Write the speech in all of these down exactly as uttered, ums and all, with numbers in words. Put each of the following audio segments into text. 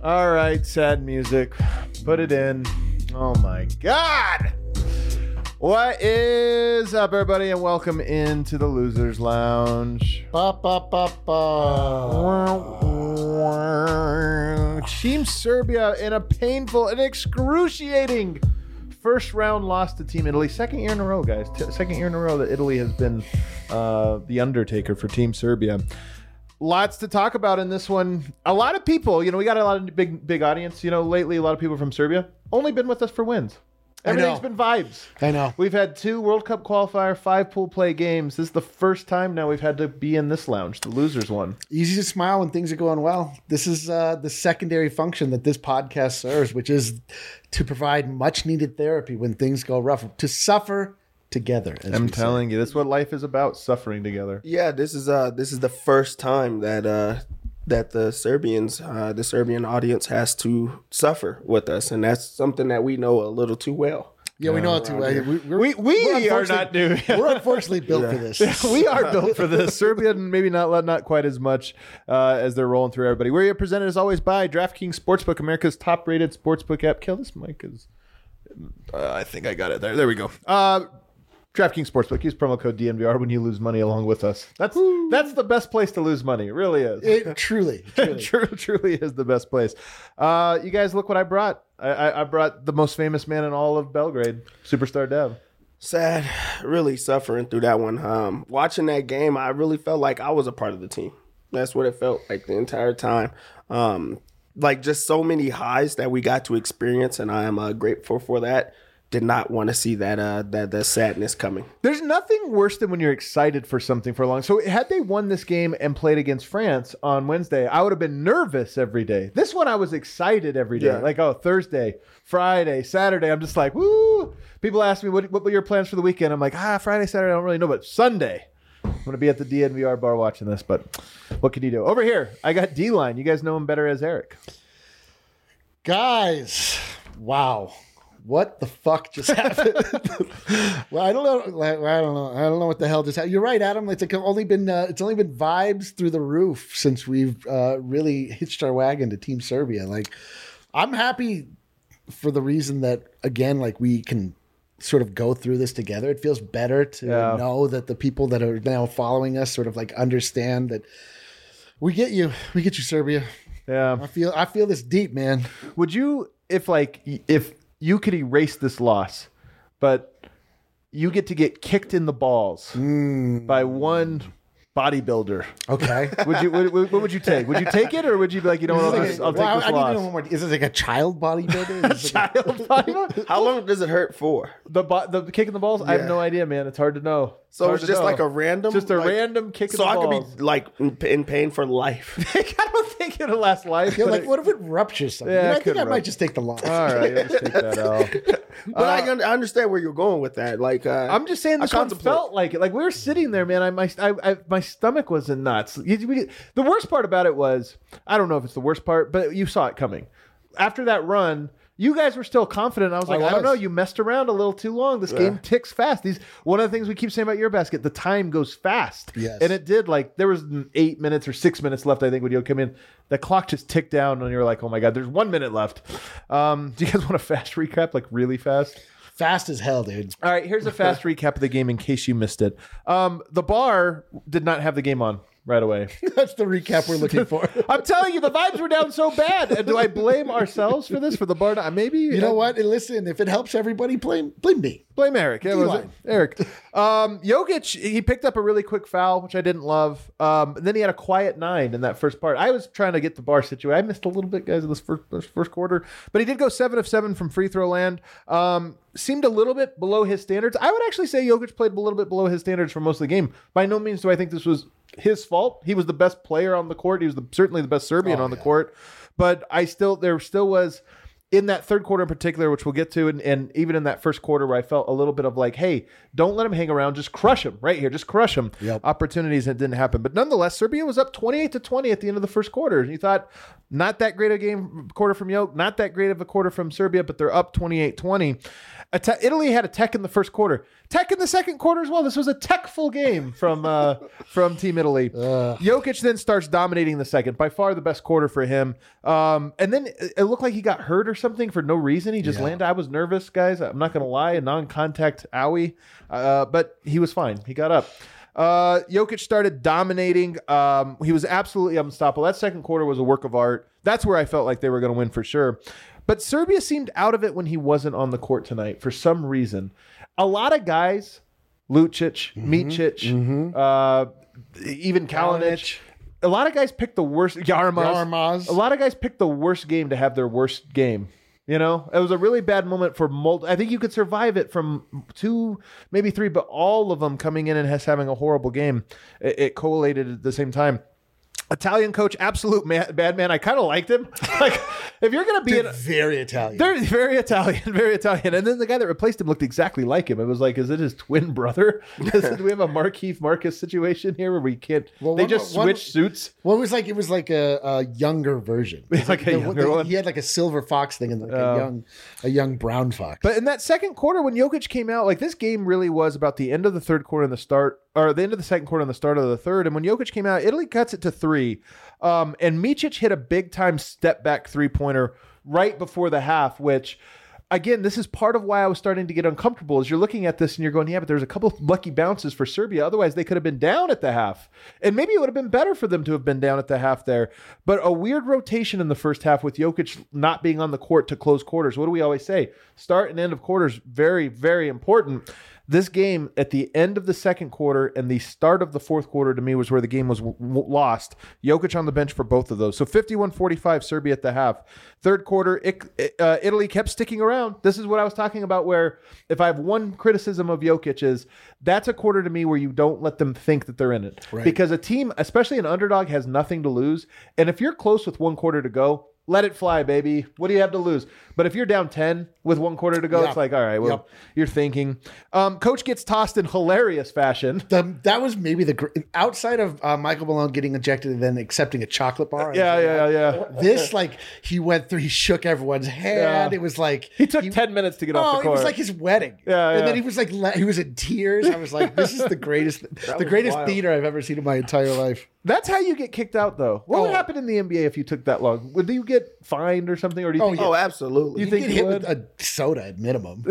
All right, sad music. Put it in. Oh my God. What is up, everybody, and welcome into the Losers Lounge. Ba, ba, ba, ba. Team Serbia in a painful and excruciating first round loss to Team Italy. Second year in a row, guys. T- second year in a row that Italy has been uh, the undertaker for Team Serbia. Lots to talk about in this one. A lot of people, you know, we got a lot of big, big audience. You know, lately, a lot of people from Serbia only been with us for wins. Everything's been vibes. I know. We've had two World Cup qualifier, five pool play games. This is the first time now we've had to be in this lounge, the losers one. Easy to smile when things are going well. This is uh, the secondary function that this podcast serves, which is to provide much needed therapy when things go rough, to suffer together. I'm telling you, that's what life is about, suffering together. Yeah, this is uh this is the first time that uh that the Serbians, uh, the Serbian audience has to suffer with us, and that's something that we know a little too well. Yeah, we know it too well. We, we're, We, we we're are not doing We're unfortunately built for this. We are built for this. Serbia, maybe not not quite as much uh, as they're rolling through everybody. We're presented as always by DraftKings Sportsbook, America's top-rated sportsbook app. Kill this mic is. Uh, I think I got it there. There we go. Uh, DraftKings Sportsbook. Use promo code D N V R when you lose money along with us. That's Woo. that's the best place to lose money. It really is. It truly, truly. True, truly is the best place. Uh, you guys, look what I brought. I, I, I brought the most famous man in all of Belgrade, Superstar Dev. Sad, really suffering through that one. Um, watching that game, I really felt like I was a part of the team. That's what it felt like the entire time. Um, like just so many highs that we got to experience, and I am uh, grateful for that. Did not want to see that uh that that sadness coming. There's nothing worse than when you're excited for something for a long. So had they won this game and played against France on Wednesday, I would have been nervous every day. This one I was excited every day. Yeah. Like, oh, Thursday, Friday, Saturday. I'm just like, woo. People ask me what what were your plans for the weekend? I'm like, ah, Friday, Saturday, I don't really know, but Sunday, I'm gonna be at the D N V R bar watching this. But what can you do? Over here, I got D-Line. You guys know him better as Eric. Guys, wow. What the fuck just happened? Well, I don't know. I don't know. I don't know what the hell just happened. You're right, Adam. It's like only been uh, it's only been vibes through the roof since we've uh, really hitched our wagon to Team Serbia. Like, I'm happy for the reason that again, like we can sort of go through this together. It feels better to Yeah. know that the people that are now following us sort of like understand that we get you. We get you, Serbia. Yeah. I feel. I feel this deep, man. Would you, if like, if you could erase this loss, but you get to get kicked in the balls Mm. by one bodybuilder, Okay. would you? What, what would you take? Would you take it, or would you be like, you know what, I'll, Is just, it I'll like- take well, this I need to loss? know one more. Is this like a child bodybuilder? Is this like a- Child bodybuilder? How long does it hurt for? The bo- the kick in the balls? I have Yeah. no idea, man. It's hard to know. So Hard it's to just know. like a random, just a like- random kick in So the I balls. could be like in, in pain for life. I don't think it'll last life. Yeah, but like, it- what if it ruptures something? Yeah, You know, it I think could I might rupture. just take the loss. All right, let's take that out. But I, un- I understand where you're going with that. Like uh, I'm just saying this I one contemplate. felt like it. Like we were sitting there, man. I my I, I, my stomach was in knots. You- we- The worst part about it was, I don't know if it's the worst part, but you saw it coming. After that run, you guys were still confident. I was like, I, I don't know. was. You messed around a little too long. This game ticks fast. These one of the things we keep saying about your basket, the time goes fast. Yes. And it did. Like there was eight minutes or six minutes left, I think, when you come in. The clock just ticked down, and you're like, oh my god, there's one minute left. Um, do you guys want a fast recap, like really fast? Fast as hell, dude. All right, here's a fast recap of the game in case you missed it. Um, the bar did not have the game on right away. That's the recap we're looking for. I'm telling you, the vibes were down so bad. And do I blame ourselves for this? For the bar? Not, maybe. You know what? And listen, if it helps everybody, blame blame me. Blame Eric. Yeah, was it? D-line. Eric. Um, Jokic, he picked up a really quick foul, which I didn't love. Um, and then he had a quiet nine in that first part. I was trying to get the bar situated. I missed a little bit, guys, in this first, this first quarter. But he did go seven of seven from free throw land. Um, seemed a little bit below his standards. I would actually say Jokic played a little bit below his standards for most of the game. By no means do I think this was his fault. He was the best player on the court. He was the, certainly the best Serbian Oh, on the yeah. court. But I still, there still was... in that third quarter in particular, which we'll get to, and, and even in that first quarter where I felt a little bit of like, hey, don't let him hang around, just crush him right here, just crush him. Yep. Opportunities, and it didn't happen. But nonetheless, Serbia was up twenty-eight to twenty at the end of the first quarter. And you thought, not that great a game quarter from Yoke, not that great of a quarter from Serbia, but they're up twenty-eight twenty. Te- Italy had a tech in the first quarter, tech in the second quarter as well. This was a tech-full game from uh, from Team Italy. Ugh. Jokic then starts dominating the second, by far the best quarter for him. Um, and then it looked like he got hurt or something for no reason. He just Yeah. landed. I was nervous, guys. I'm not going to lie, a non-contact owie, uh, but he was fine. He got up. Uh, Jokic started dominating. Um, he was absolutely unstoppable. That second quarter was a work of art. That's where I felt like they were going to win for sure. But Serbia seemed out of it when he wasn't on the court tonight for some reason. A lot of guys, Lucic, mm-hmm, Micic, mm-hmm. uh, even Kalinic, a lot of guys picked the worst. Yarmaz, Yarmaz. A lot of guys picked the worst game to have their worst game. You know, it was a really bad moment for multi. I think you could survive it from two, maybe three, but all of them coming in and has having a horrible game. It, it collated at the same time. Italian coach, absolute man, bad man. I kind of liked him. Like, if you're going to be Dude, an, very Italian. they're very Italian, very Italian. And then the guy that replaced him looked exactly like him. It was like, is it his twin brother? Do we have a Markeith Marcus situation here where we can't? Well, they one- just one- switch suits. Well, it was like it was like a, a younger version. It's like a The- younger the- one. He had like a silver fox thing and like Oh. a young a young brown fox. But in that second quarter, when Jokic came out, like this game really was about the end of the third quarter and the start, or the end of the second quarter and the start of the third. And when Jokic came out, Italy cuts it to three. Um, and Micic hit a big time step back three pointer right before the half, which again, this is part of why I was starting to get uncomfortable is you're looking at this and you're going, yeah, but there's a couple of lucky bounces for Serbia. Otherwise they could have been down at the half, and maybe it would have been better for them to have been down at the half there. But a weird rotation in the first half with Jokic not being on the court to close quarters. What do we always say? Start and end of quarters, very, very important. This game at the end of the second quarter and the start of the fourth quarter to me was where the game was w- w- lost. Jokic on the bench for both of those. So fifty-one forty-five Serbia at the half. Third quarter, it, uh, Italy kept sticking around. This is what I was talking about where if I have one criticism of Jokic is that's a quarter to me where you don't let them think that they're in it. Right. Because a team, especially an underdog, has nothing to lose. And if you're close with one quarter to go, let it fly, baby. What do you have to lose? But if you're down ten with one quarter to go, Yep. it's like, all right, well, Yep. you're thinking. Um, Coach gets tossed in hilarious fashion. The, that was maybe the gr- outside of uh, Michael Malone getting ejected and then accepting a chocolate bar. Yeah, yeah, yeah. This like he went through, he shook everyone's hand. Yeah. It was like He took ten minutes to get off Oh, the it court. was like his wedding. Yeah, and yeah. then he was like le- he was in tears. I was like, this is the greatest, the was greatest wild. theater I've ever seen in my entire life. That's how you get kicked out, though. What would Oh. happen in the N B A if you took that long? Would you get fined or something, or do you Oh, think? yeah. Oh, absolutely. You You think get you hit would? with a soda at minimum.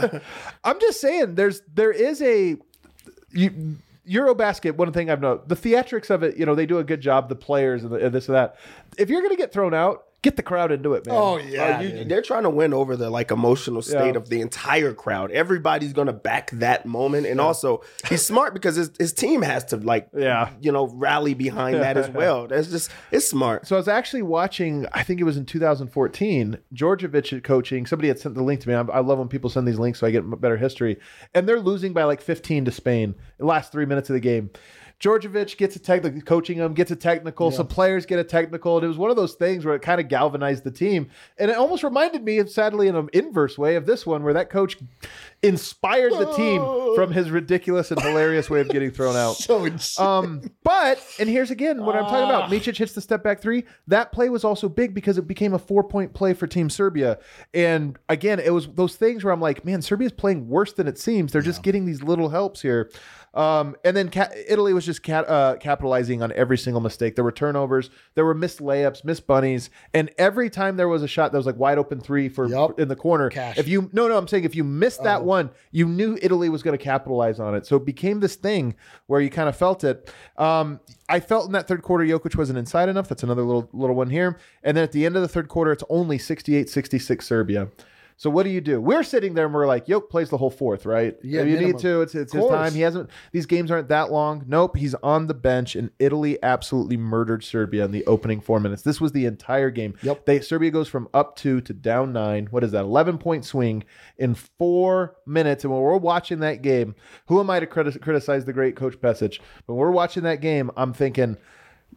I'm just saying, there's there is a you, Eurobasket. One thing I've noticed, the theatrics of it. You know, they do a good job. The players and, the, and this and that. If you're going to get thrown out, get the crowd into it, man. Oh yeah, Uh, you- dude. they're trying to win over the like emotional state Yeah. of the entire crowd. Everybody's gonna back that moment, and also he's smart because his, his team has to like, Yeah. you know, rally behind that as well. That's just it's smart. So I was actually watching, I think it was in two thousand fourteen, Djordjevic coaching. Somebody had sent the link to me. I, I love when people send these links so I get better history. And they're losing by like fifteen to Spain the last three minutes of the game. Djordjevic gets a technical, coaching them, gets a technical. Some players get a technical. And it was one of those things where it kind of galvanized the team. And it almost reminded me, of, sadly, in an inverse way, of this one where that coach inspired the team from his ridiculous and hilarious way of getting thrown out. so insane. Um, but, and here's again what I'm talking about. Micic hits the step back three. That play was also big because it became a four point play for Team Serbia. And again, it was those things where I'm like, man, Serbia's playing worse than it seems. They're just getting these little helps here. Um, and then ca- Italy was just ca- uh, capitalizing on every single mistake. There were turnovers, there were missed layups, missed bunnies, and every time there was a shot that was like wide open three for Yup. in the corner. Cash. If you no no, I'm saying if you missed that Oh. one, you knew Italy was going to capitalize on it. So it became this thing where you kind of felt it. Um, I felt in that third quarter, Jokic wasn't inside enough. That's another little little one here. And then at the end of the third quarter, it's only sixty-eight sixty-six Serbia. So what do you do? We're sitting there and we're like, Yoke plays the whole fourth, right? Yeah, If you minimum. need to. It's it's Of his course. time. He hasn't. These games aren't that long. Nope. He's on the bench, and Italy absolutely murdered Serbia in the opening four minutes. This was the entire game. Yep. They Serbia goes from up two to down nine. What is that? eleven point swing in four minutes. And when we're watching that game, who am I to criti- criticize the great Coach Pesic? When we're watching that game, I'm thinking,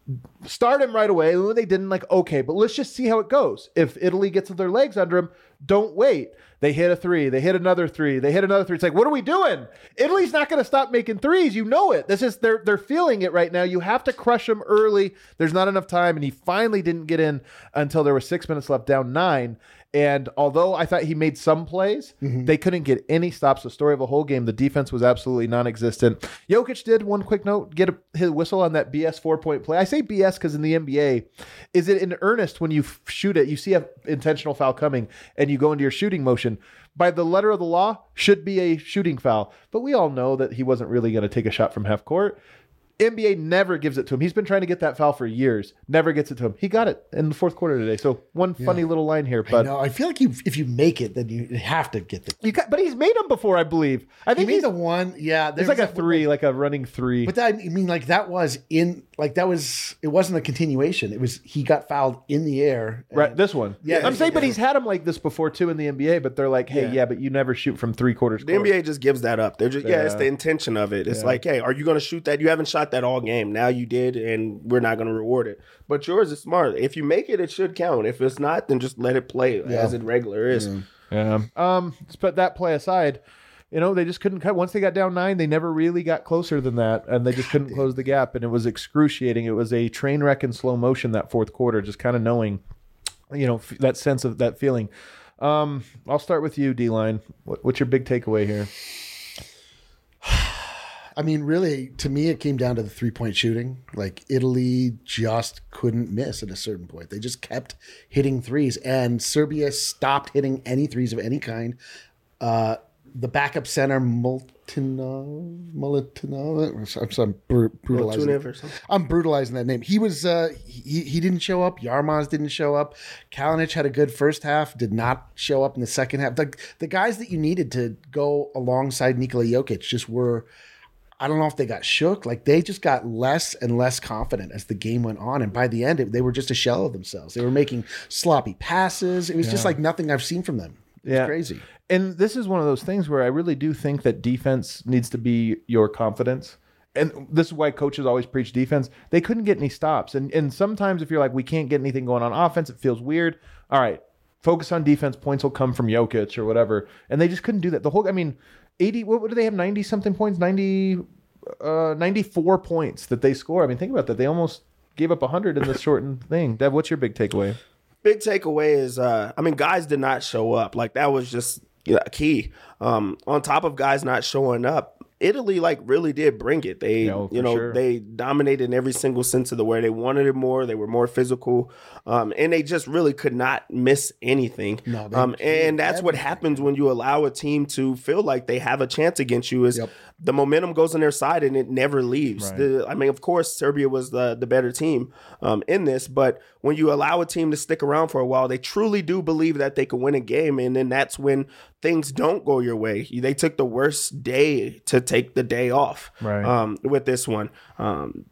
start him right away. And when they didn't, like, okay, but let's just see how it goes. If Italy gets their legs under him, don't wait. They hit a three. They hit another three. They hit another three. It's like, what are we doing? Italy's not going to stop making threes. You know it. This is they're they're feeling it right now. You have to crush them early. There's not enough time, and he finally didn't get in until there was six minutes left, down nine. And although I thought he made some plays, mm-hmm. they couldn't get any stops. The story of a whole game, the defense was absolutely non-existent. Jokic did, one quick note, get a, his whistle on that B S four-point play. I say B S because in the N B A, is it in earnest when you f- shoot it, you see an intentional foul coming, and you go into your shooting motion. By the letter of the law, should be a shooting foul. But we all know that he wasn't really going to take a shot from half court. N B A never gives it to him. He's been trying to get that foul for years. Never gets it to him. He got it in the fourth quarter today. So one yeah. funny little line here. But I know. I feel like you, if you make it, then you have to get the. You got, but he's made them before, I believe. I think he he's made the one. Yeah, it's like a three, like a running three. But that, I mean, like that was in, like that was. It wasn't a continuation. It was he got fouled in the air. And, right. This one. Yeah. I'm saying, yeah. but he's had them like this before too in the N B A. But they're like, hey, yeah, yeah but you never shoot from three quarters. The court. N B A just gives that up. They're just yeah. yeah it's the intention of it. It's yeah. like, hey, are you going to shoot that? You haven't shot that all game. Now you did, and we're not going to reward it. But yours is smart. If you make it, it should count. If it's not, then just let it play yeah. as it regular is. Yeah. yeah. Um. But that play aside, you know, they just couldn't cut. Once they got down nine, they never really got closer than that, and they just couldn't close the gap, and it was excruciating. It was a train wreck in slow motion that fourth quarter, just kind of knowing, you know, f- that sense of that feeling. Um. I'll start with you, D-Line. What, what's your big takeaway here? I mean, really, to me, it came down to the three-point shooting. Like, Italy just couldn't miss at a certain point. They just kept hitting threes, and Serbia stopped hitting any threes of any kind. Uh, the backup center, Moltinov, Moltinov, I'm, sorry, I'm br- brutalizing. Or something. I'm brutalizing that name. He was, uh, he he didn't show up. Yarmaz didn't show up. Kalinic had a good first half, did not show up in the second half. The, the guys that you needed to go alongside Nikola Jokic just were. I don't know if they got shook. Like they just got less and less confident as the game went on. And by the end, it, they were just a shell of themselves. They were making sloppy passes. It was yeah. just like nothing I've seen from them. It's yeah. crazy. And this is one of those things where I really do think that defense needs to be your confidence. And this is why coaches always preach defense. They couldn't get any stops. And and sometimes if you're like, we can't get anything going on offense, it feels weird. All right, focus on defense. Points will come from Jokic or whatever. And they just couldn't do that. The whole, I mean, eighty, what, what do they have? ninety something points, ninety, uh, ninety-four points that they score. I mean, think about that. They almost gave up one hundred in this shortened thing. Dev, what's your big takeaway? Big takeaway is, uh, I mean, guys did not show up. Like that was just you know, key. Um, on top of guys not showing up, Italy like really did bring it. They, yeah, you know, sure. they dominated in every single sense of the word. They wanted it more. They were more physical, um, and they just really could not miss anything. No, um, and that's everything. What happens when you allow a team to feel like they have a chance against you. Is yep. the momentum goes on their side and it never leaves. Right. The, I mean, of course, Serbia was the the better team um, in this, but when you allow a team to stick around for a while, they truly do believe that they can win a game, and then that's when things don't go your way. They took the worst day to take the day off right. um, with this one. Um,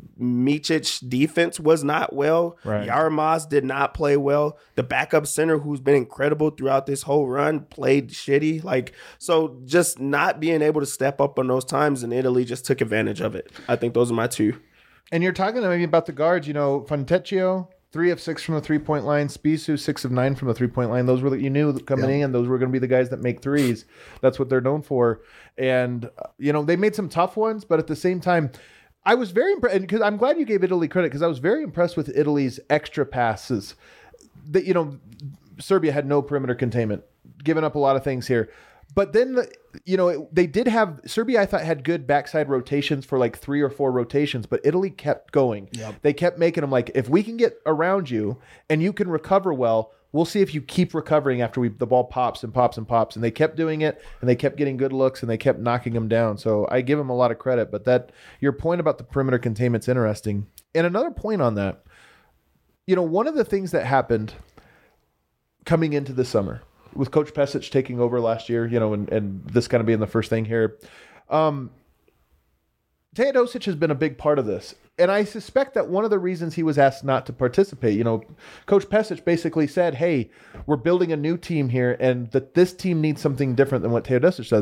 Micic's defense was not well. Right. Yarmaz did not play well. The backup center, who's been incredible throughout this whole run, played shitty. Like, so just not being able to step up on those times, and Italy just took advantage of it. I think those are my two. And you're talking maybe about the guards, you know, Fontecchio, three of six from the three-point line. Spisu, six of nine from the three-point line. Those were the, you knew coming yeah. in, those were going to be the guys that make threes. That's what they're known for. And, uh, you know, they made some tough ones, but at the same time, I was very impressed, because I'm glad you gave Italy credit, because I was very impressed with Italy's extra passes. That, you know, Serbia had no perimeter containment, giving up a lot of things here. But then, the, you know, it, they did have, Serbia I thought had good backside rotations for like three or four rotations, but Italy kept going. Yep. They kept making them like, if we can get around you and you can recover well, we'll see if you keep recovering after we the ball pops and pops and pops. And they kept doing it, and they kept getting good looks, and they kept knocking them down. So I give them a lot of credit. But that your point about the perimeter containment's interesting. And another point on that, you know, one of the things that happened coming into the summer with Coach Pesic taking over last year, you know, and, and this kind of being the first thing here, um, Teodosic has been a big part of this. And I suspect that one of the reasons he was asked not to participate, you know, Coach Pesic basically said, hey, we're building a new team here, and that this team needs something different than what Teodosic does.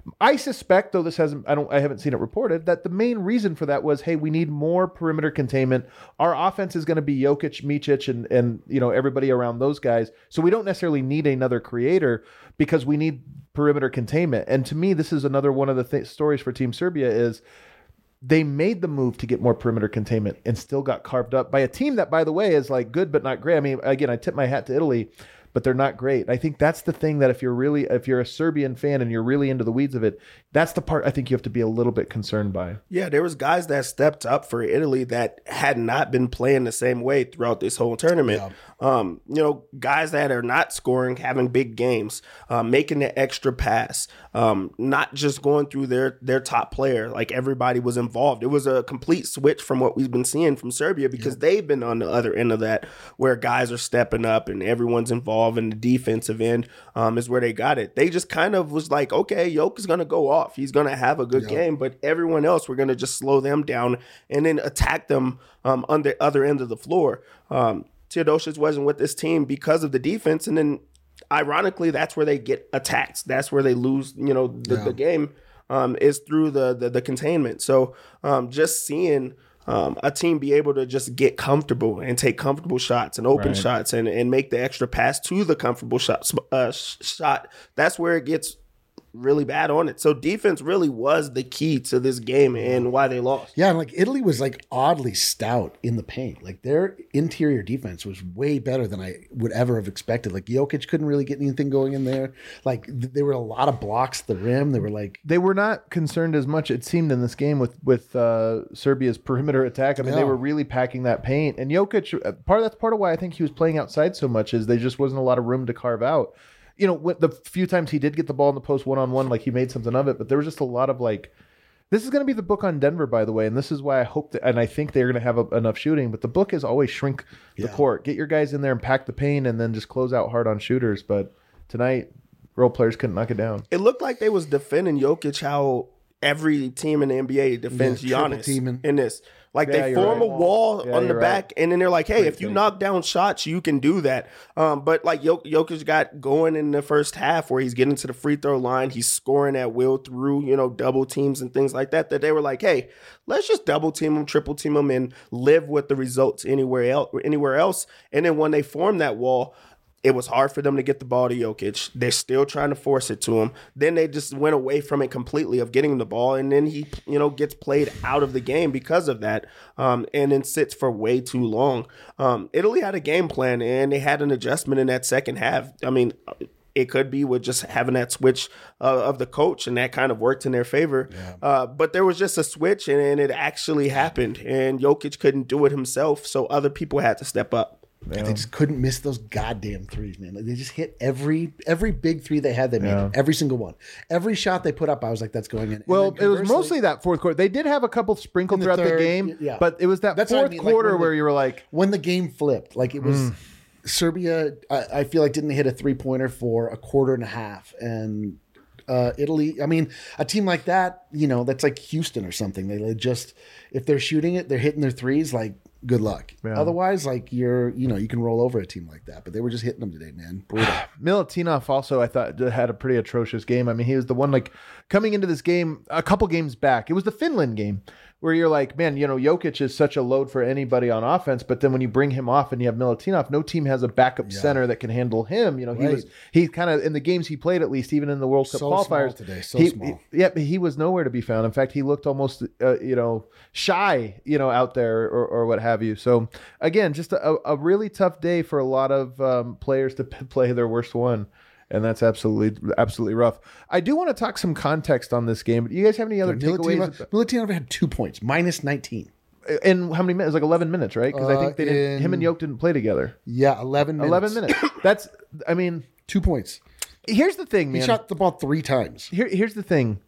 I suspect, though this hasn't, I don't, I haven't seen it reported, that the main reason for that was, hey, we need more perimeter containment. Our offense is going to be Jokic, Micic, and and you know everybody around those guys. So we don't necessarily need another creator because we need perimeter containment. And to me, this is another one of the th- stories for Team Serbia is they made the move to get more perimeter containment and still got carved up by a team that, by the way, is like good but not great. I mean, again, I tip my hat to Italy, but they're not great. I think that's the thing that if you're really, if you're a Serbian fan and you're really into the weeds of it, that's the part I think you have to be a little bit concerned by. Yeah, there was guys that stepped up for Italy that had not been playing the same way throughout this whole tournament. Yeah. Um, you know, guys that are not scoring, having big games, uh, making the extra pass, um, not just going through their their top player. Like everybody was involved. It was a complete switch from what we've been seeing from Serbia because yeah. they've been on the other end of that, where guys are stepping up and everyone's involved, and the defensive end um, is where they got it. They just kind of was like, okay, Jokic is going to go off. He's going to have a good yeah. game, but everyone else, we're going to just slow them down and then attack them um, on the other end of the floor. Um, Teodosic wasn't with this team because of the defense, and then ironically, that's where they get attacked. That's where they lose, you know, the, yeah. the game um, is through the, the the containment. So um, just seeing um, a team be able to just get comfortable and take comfortable shots and open right. shots and, and make the extra pass to the comfortable shot, uh, shot, that's where it gets really bad on it. So defense really was the key to this game and why they lost. Yeah, and like Italy was like oddly stout in the paint. Like their interior defense was way better than I would ever have expected. Like Jokic couldn't really get anything going in there. Like th- there were a lot of blocks at the rim. They were like they were not concerned as much, it seemed, in this game with with uh, Serbia's perimeter attack. I mean, yeah. they were really packing that paint. And Jokic, part of that's part of why I think he was playing outside so much is there just wasn't a lot of room to carve out. You know, the few times he did get the ball in the post one-on-one, like he made something of it, but there was just a lot of like, this is going to be the book on Denver, by the way, and this is why I hope that, and I think they're going to have a, enough shooting, but the book is always shrink the yeah. court. Get your guys in there and pack the paint and then just close out hard on shooters. But tonight, role players couldn't knock it down. It looked like they was defending Jokic how every team in the N B A defends yeah, Giannis in this. Like yeah, they form right. a wall yeah, on the back, right. and then they're like, "Hey, Pretty if you safe. knock down shots, you can do that." Um, but like Jok- Jokic got going in the first half, where he's getting to the free throw line, he's scoring at will through you know double teams and things like that. That they were like, "Hey, let's just double team him, triple team him, and live with the results anywhere else." Anywhere else, and then when they formed that wall, it was hard for them to get the ball to Jokic. They're still trying to force it to him. Then they just went away from it completely of getting the ball, and then he, you know, gets played out of the game because of that, um, and then sits for way too long. Um, Italy had a game plan, and they had an adjustment in that second half. I mean, it could be with just having that switch uh, of the coach, and that kind of worked in their favor. Yeah. Uh, but there was just a switch, and, and it actually happened, and Jokic couldn't do it himself, so other people had to step up. Yeah. They just couldn't miss those goddamn threes, man. Like they just hit every every big three they had. They made yeah. it, every single one. Every shot they put up, I was like, "That's going in." Well, it was mostly that fourth quarter. They did have a couple sprinkled the throughout third, the game, yeah. but it was that That's fourth I mean. quarter like where the, you were like, when the game flipped, like it was mm. Serbia. I, I feel like didn't hit a three pointer for a quarter and a half, and uh, Italy. I mean, a team like that, you know, that's like Houston or something. They just if they're shooting it, they're hitting their threes like. Good luck. Yeah. Otherwise, like you're, you know, you can roll over a team like that. But they were just hitting them today, man. Brutal. Milutinov also, I thought, had a pretty atrocious game. I mean, he was the one like coming into this game a couple games back. It was the Finland game where you're like, man, you know, Jokic is such a load for anybody on offense. But then when you bring him off and you have Milutinov, no team has a backup yeah. center that can handle him. You know, he right. was he kind of in the games he played, at least even in the World Cup so qualifiers small today, so he, small. He, yeah, he was nowhere to be found. In fact, he looked almost, uh, you know, shy, you know, out there or, or what have you. So again, just a, a really tough day for a lot of um, players to p- play their worst one. And that's absolutely, absolutely rough. I do want to talk some context on this game. Do you guys have any other takeaways? Milutinov had two points, minus nineteen. In how many minutes? Like eleven minutes, right? Because uh, I think they didn't. Him and Yoke didn't play together. Yeah, eleven minutes. Eleven minutes. That's. I mean, two points. Here's the thing, man. He shot the ball three times. Here, here's the thing.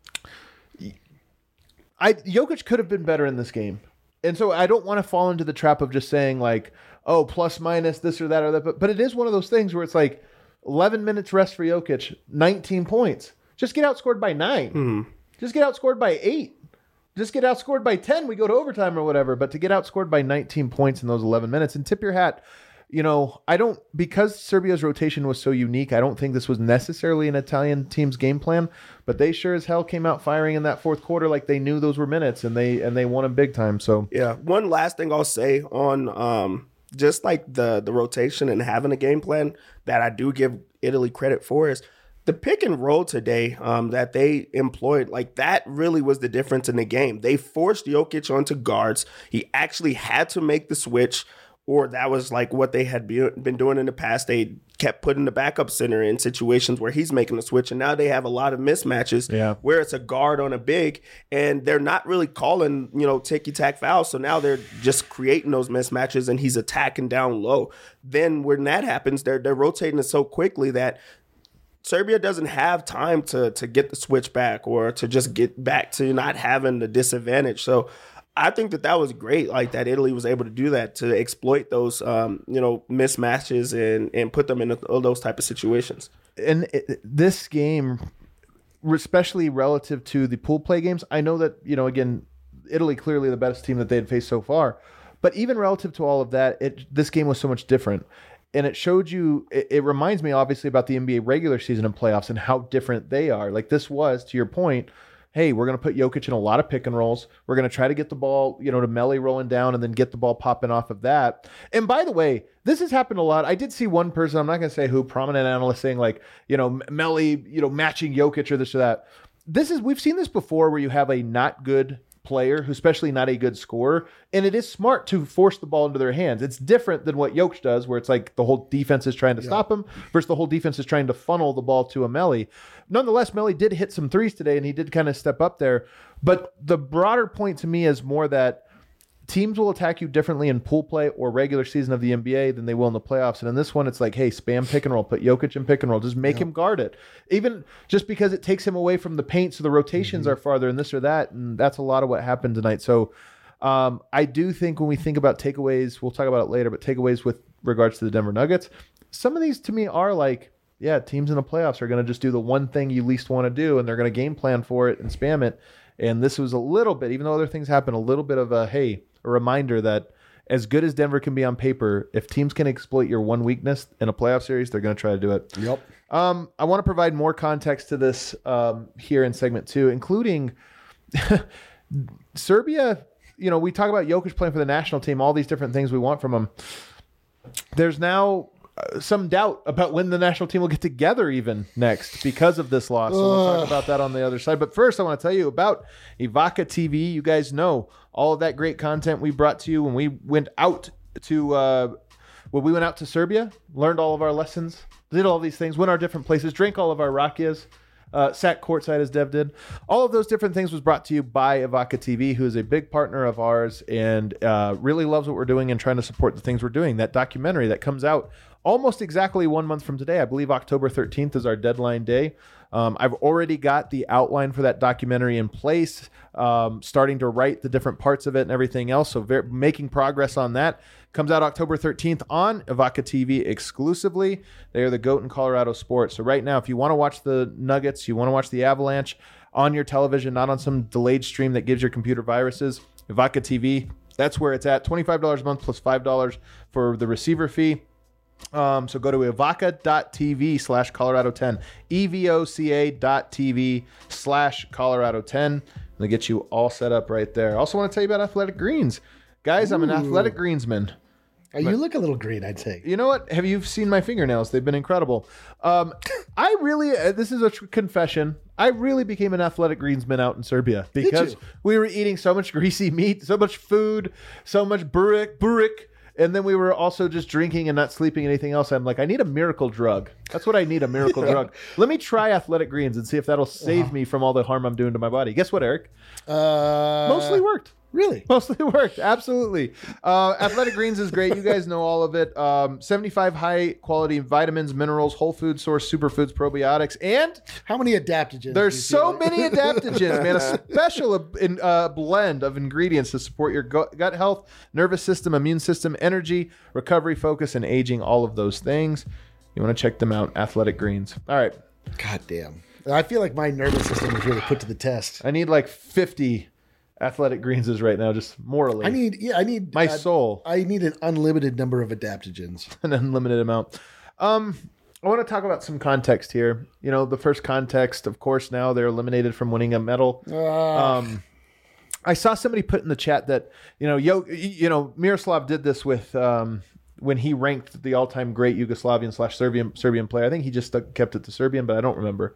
I Jokic could have been better in this game, and so I don't want to fall into the trap of just saying like, oh, plus minus this or that or that. But but it is one of those things where it's like. eleven minutes rest for Jokic, nineteen points. Just get outscored by nine. Mm. Just get outscored by eight. Just get outscored by ten. We go to overtime or whatever. But to get outscored by nineteen points in those eleven minutes, and tip your hat. you know, I don't, because Serbia's rotation was so unique, I don't think this was necessarily an Italian team's game plan, but they sure as hell came out firing in that fourth quarter like they knew those were minutes, and they and they won them big time. So yeah, one last thing I'll say on um, just like the the rotation and having a game plan that I do give Italy credit for is the pick and roll today um, that they employed. Like, that really was the difference in the game. They forced Jokic onto guards. He actually had to make the switch, or that was like what they had be, been doing in the past. They kept putting the backup center in situations where he's making the switch, and now they have a lot of mismatches yeah. where it's a guard on a big, and they're not really calling, you know, ticky-tack fouls. So now they're just creating those mismatches, and he's attacking down low. Then when that happens, they're they're rotating it so quickly that Serbia doesn't have time to to get the switch back or to just get back to not having the disadvantage. So I think that that was great, like that Italy was able to do that, to exploit those, um, you know, mismatches and, and put them in all those type of situations. And it, this game, especially relative to the pool play games, I know that, you know, again, Italy clearly the best team that they had faced so far, but even relative to all of that, it this game was so much different. And it showed you, it, it reminds me obviously about the N B A regular season and playoffs and how different they are. Like, this was, to your point, hey, we're going to put Jokic in a lot of pick and rolls. We're going to try to get the ball, you know, to Melli rolling down and then get the ball popping off of that. And by the way, this has happened a lot. I did see one person, I'm not going to say who, prominent analyst saying like, you know, Melli, you know, matching Jokic or this or that. This is, we've seen this before where you have a not good player, who's especially not a good scorer, and it is smart to force the ball into their hands. It's different than what Jokic does, where it's like the whole defense is trying to yeah. stop him versus the whole defense is trying to funnel the ball to a Melli. Nonetheless, Melli did hit some threes today, and he did kind of step up there. But the broader point to me is more that teams will attack you differently in pool play or regular season of the N B A than they will in the playoffs. And in this one, it's like, hey, spam pick and roll, put Jokic in pick and roll, just make yeah. him guard it. Even just because it takes him away from the paint, so the rotations mm-hmm. are farther and this or that. And that's a lot of what happened tonight. So um, I do think when we think about takeaways, we'll talk about it later, but takeaways with regards to the Denver Nuggets, some of these to me are like, yeah, teams in the playoffs are going to just do the one thing you least want to do, and they're going to game plan for it and spam it. And this was a little bit, even though other things happen, a little bit of a, hey, a reminder that as good as Denver can be on paper, if teams can exploit your one weakness in a playoff series, they're going to try to do it. Yep. Um, I want to provide more context to this um, here in segment two, including Serbia. You know, we talk about Jokic playing for the national team, all these different things we want from him. There's now some doubt about when the national team will get together even next because of this loss. So we'll talk about that on the other side. But first, I want to tell you about Evoca T V. You guys know all of that great content we brought to you when we went out to uh, when we went out to Serbia, learned all of our lessons, did all these things, went our different places, drank all of our rakias, uh, sat courtside as Dev did. All of those different things was brought to you by Evoca T V, who is a big partner of ours and uh, really loves what we're doing and trying to support the things we're doing. That documentary that comes out almost exactly one month from today. I believe October thirteenth is our deadline day. Um, I've already got the outline for that documentary in place, um, starting to write the different parts of it and everything else. So very, making progress on that. Comes out October thirteenth on Evoca T V exclusively. They are the GOAT in Colorado sports. So right now, if you want to watch the Nuggets, you want to watch the Avalanche on your television, not on some delayed stream that gives your computer viruses, Evoca T V, that's where it's at. twenty-five dollars a month plus five dollars for the receiver fee. Um, so go to evoca.tv slash Colorado 10, E-V-O-C-A dot TV slash Colorado 10. They'll get you all set up right there. Also want to tell you about Athletic Greens. Guys, Ooh. I'm an Athletic Greensman. Oh, you look a little green, I'd say. You know what? Have you seen my fingernails? They've been incredible. Um, I really, uh, this is a tr- confession. I really became an Athletic Greensman out in Serbia because we were eating so much greasy meat, so much food, so much burek, burek. And then we were also just drinking and not sleeping anything else. I'm like, I need a miracle drug. That's what I need, a miracle drug. Let me try Athletic Greens and see if that'll save uh-huh. me from all the harm I'm doing to my body. Guess what, Eric? Uh, Mostly worked. Really? Mostly worked. Absolutely. Uh, Athletic Greens is great. You guys know all of it. Um, seventy-five high quality vitamins, minerals, whole food source, superfoods, probiotics, and how many adaptogens? There's so many adaptogens, man. A special in, uh, blend of ingredients to support your gut health, nervous system, immune system, energy, recovery, focus, and aging. All of those things. You want to check them out. Athletic Greens. All right. God damn. I feel like my nervous system was really put to the test. I need like fifty Athletic Greens is right now, just morally. I need, yeah, I need my uh, soul, I need an unlimited number of adaptogens. an unlimited amount. Um, I want to talk about some context here. You know, the first context, of course, now they're eliminated from winning a medal. Uh, Um, I saw somebody put in the chat that, you know, Yo, you know, Miroslav did this with um, when he ranked the all-time great Yugoslavian slash Serbian Serbian player. I think he just stuck, kept it to Serbian, but I don't remember.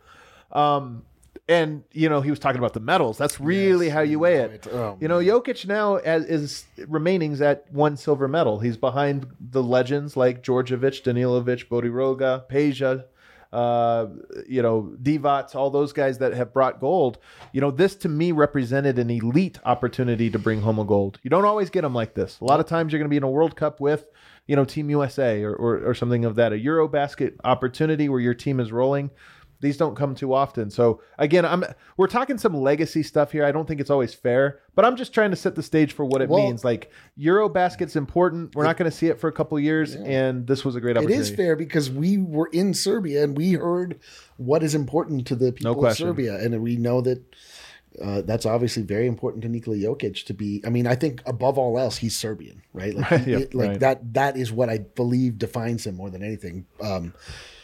Um, and you know, he was talking about the medals. That's really Yes, how you weigh it. right. Oh, you know, Jokic now as, is remaining's at one silver medal. He's behind the legends like Djordjevic, Danilovic, Bodiroga, Peja, uh, you know, Divac, all those guys that have brought gold. You know, this to me represented an elite opportunity to bring home a gold. You don't always get them like this. A lot of times you're going to be in a World Cup with, you know, Team U S A or, or, or something of that, a Eurobasket opportunity where your team is rolling. These don't come too often. So again, I'm we're talking some legacy stuff here. I don't think it's always fair, but I'm just trying to set the stage for what it Well, means. Like Eurobasket's important. We're not going to see it for a couple of years, and this was a great it opportunity. is fair because we were in Serbia and we heard what is important to the people of question. Serbia. And we know that uh, that's obviously very important to Nikola Jokic to be. I mean, I think above all else, he's Serbian, right? Like, he- Yeah, it- like right. that, that is what I believe defines him more than anything. Um,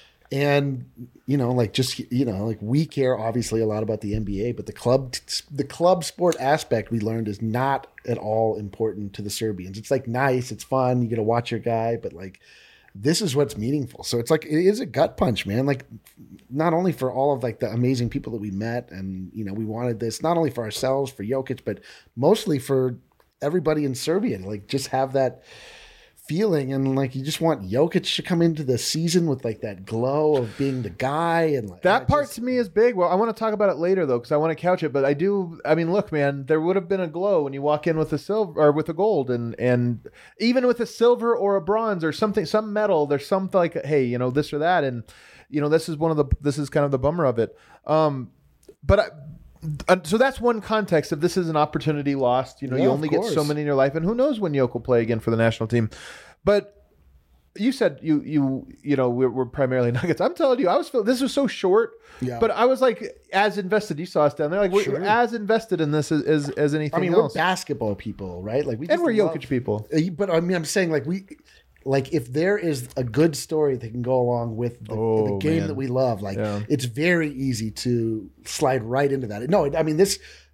And, you know, like just, you know, like we care obviously a lot about the N B A, but the club, the club sport aspect we learned is not at all important to the Serbians. It's like nice, it's fun, you get to watch your guy, but like this is what's meaningful. So it's like, it is a gut punch, man. Like not only for all of like the amazing people that we met and, you know, we wanted this, not only for ourselves, for Jokic, but mostly for everybody in Serbia to like just have that feeling, and like you just want Jokic to come into the season with like that glow of being the guy, and like That I part just- to me is big. Well, I want to talk about it later though, because I want to couch it. But I do. I mean, look, man, there would have been a glow when you walk in with a silver or with a gold, and and even with a silver or a bronze or something, some metal. There's something like, hey, you know, this or that, and you know, this is one of the. This is kind of the bummer of it. Um, but. I, Uh, so that's one context of this is an opportunity lost. You know, Yeah, you of only get so course. many in your life, and who knows when Yoke will play again for the national team. But you said you you you know we're, we're primarily Nuggets. I'm telling you, I was feel this was so short, Yeah. but I was like as invested. You saw us down there, like we're, Sure. we're as invested in this as as, as anything I mean, else. we're basketball people, right? Like we and just we're love- Jokic people. Uh, But I mean, I'm saying like we, like if there is a good story that can go along with the, Oh, the game man. that we love, like Yeah. it's very easy to slide right into that. No, I mean this.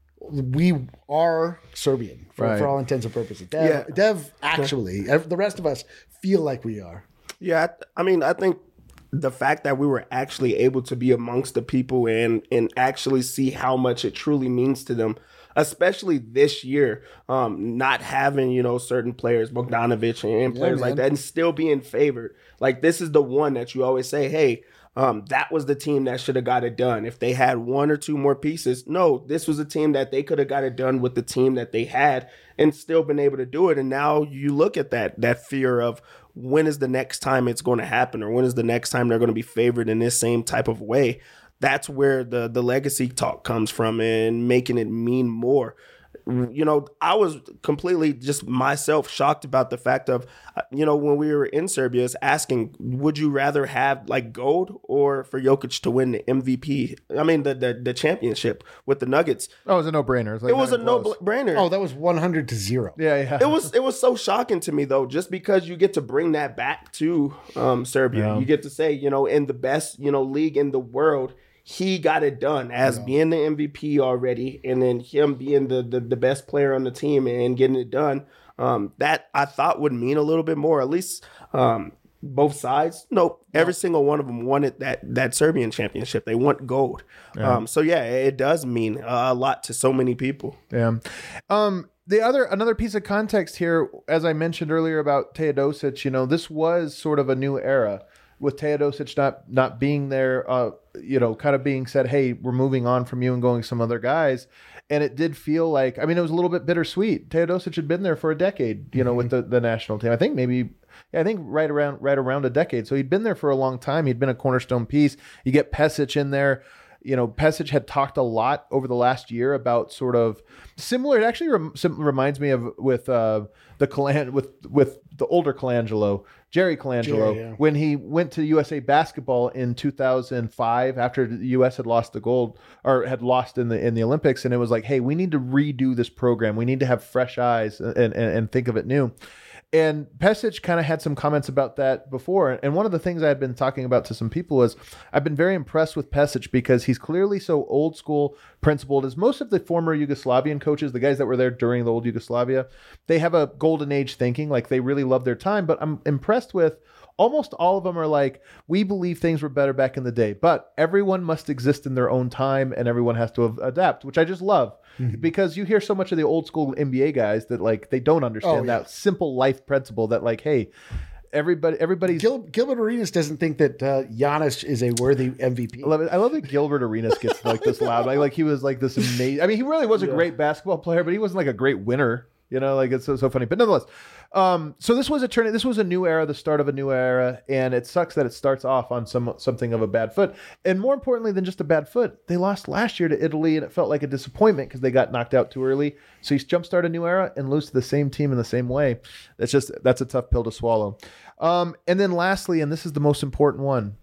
We are Serbian for, Right. for all intents and purposes. Dev, Yeah. Dev actually, ev- the rest of us feel like we are. Yeah, I I mean, I think the fact that we were actually able to be amongst the people and and actually see how much it truly means to them, especially this year, um, not having, you know, certain players, Bogdanovic and players like man. that, and still being favored. Like this is the one that you always say, hey, um, that was the team that should have got it done. If they had one or two more pieces, no, this was a team that they could have got it done with the team that they had and still been able to do it. And now you look at that, that fear of when is the next time it's going to happen, or when is the next time they're going to be favored in this same type of way. That's where the, the legacy talk comes from and making it mean more. You know, I was completely just myself shocked about the fact of, uh, you know, when we were in Serbia, is asking, would you rather have like gold or for Jokic to win the M V P? I mean, the the, the championship with the Nuggets. Oh, it was a no-brainer. Like It was a not even no close. brainer. Oh, that was one hundred to zero. Yeah, yeah. It was it was so shocking to me though, just because you get to bring that back to um, Serbia. Yeah. You get to say, you know, in the best, you know, league in the world, he got it done as being the M V P already, and then him being the the, the best player on the team and getting it done. Um, that I thought would mean a little bit more, at least um, both sides. Nope, every single one of them wanted that that Serbian championship. They want gold. Um, so yeah, it does mean a lot to so many people. Yeah. Um, the other another piece of context here, as I mentioned earlier about Teodosic, you know, this was sort of a new era with Teodosic not not being there, uh, you know, kind of being said, hey, we're moving on from you and going some other guys. And it did feel like, I mean, it was a little bit bittersweet. Teodosic had been there for a decade, you know, with the, the national team. I think maybe, yeah, I think right around right around a decade. So he'd been there for a long time. He'd been a cornerstone piece. You get Pesic in there. You know, Pesic had talked a lot over the last year about sort of similar. It actually rem, sim, reminds me of with uh, the Calan with with the older Colangelo, Jerry Colangelo, Jerry, yeah. when he went to U S A Basketball in two thousand five after the U S had lost the gold or had lost in the in the Olympics, and it was like, hey, we need to redo this program. We need to have fresh eyes and and, and think of it new. And Pesic kind of had some comments about that before. And one of the things I had been talking about to some people is I've been very impressed with Pesic because he's clearly so old school principled. As most of the former Yugoslavian coaches, the guys that were there during the old Yugoslavia, they have a golden age thinking, like they really love their time. But I'm impressed with almost all of them are like, we believe things were better back in the day, but everyone must exist in their own time and everyone has to adapt, which I just love. Mm-hmm. Because you hear so much of the old school N B A guys that like they don't understand oh, yeah. that simple life principle that like, hey, everybody, everybody's Gil, Gilbert Arenas doesn't think that uh, Giannis is a worthy M V P. I love it. I love that Gilbert Arenas gets like this loud. Like, like he was like this amazing. I mean, he really was a yeah. great basketball player, but he wasn't like a great winner. You know, like it's so, so funny. But nonetheless, um, so this was a turn. This was a new era, the start of a new era, and it sucks that it starts off on some something of a bad foot. And more importantly than just a bad foot, they lost last year to Italy, and it felt like a disappointment because they got knocked out too early. So you jumpstart a new era and lose to the same team in the same way. That's just that's a tough pill to swallow. Um, and then lastly, and this is the most important one.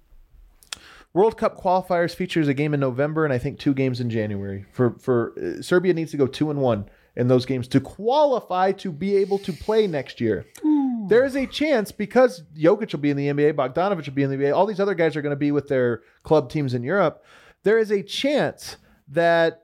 World Cup qualifiers features a game in November and I think two games in January. For for uh, Serbia needs to go two and one in those games to qualify to be able to play next year. Ooh. There is a chance because Jokic will be in the N B A, Bogdanovic will be in the N B A, all these other guys are going to be with their club teams in Europe. There is a chance that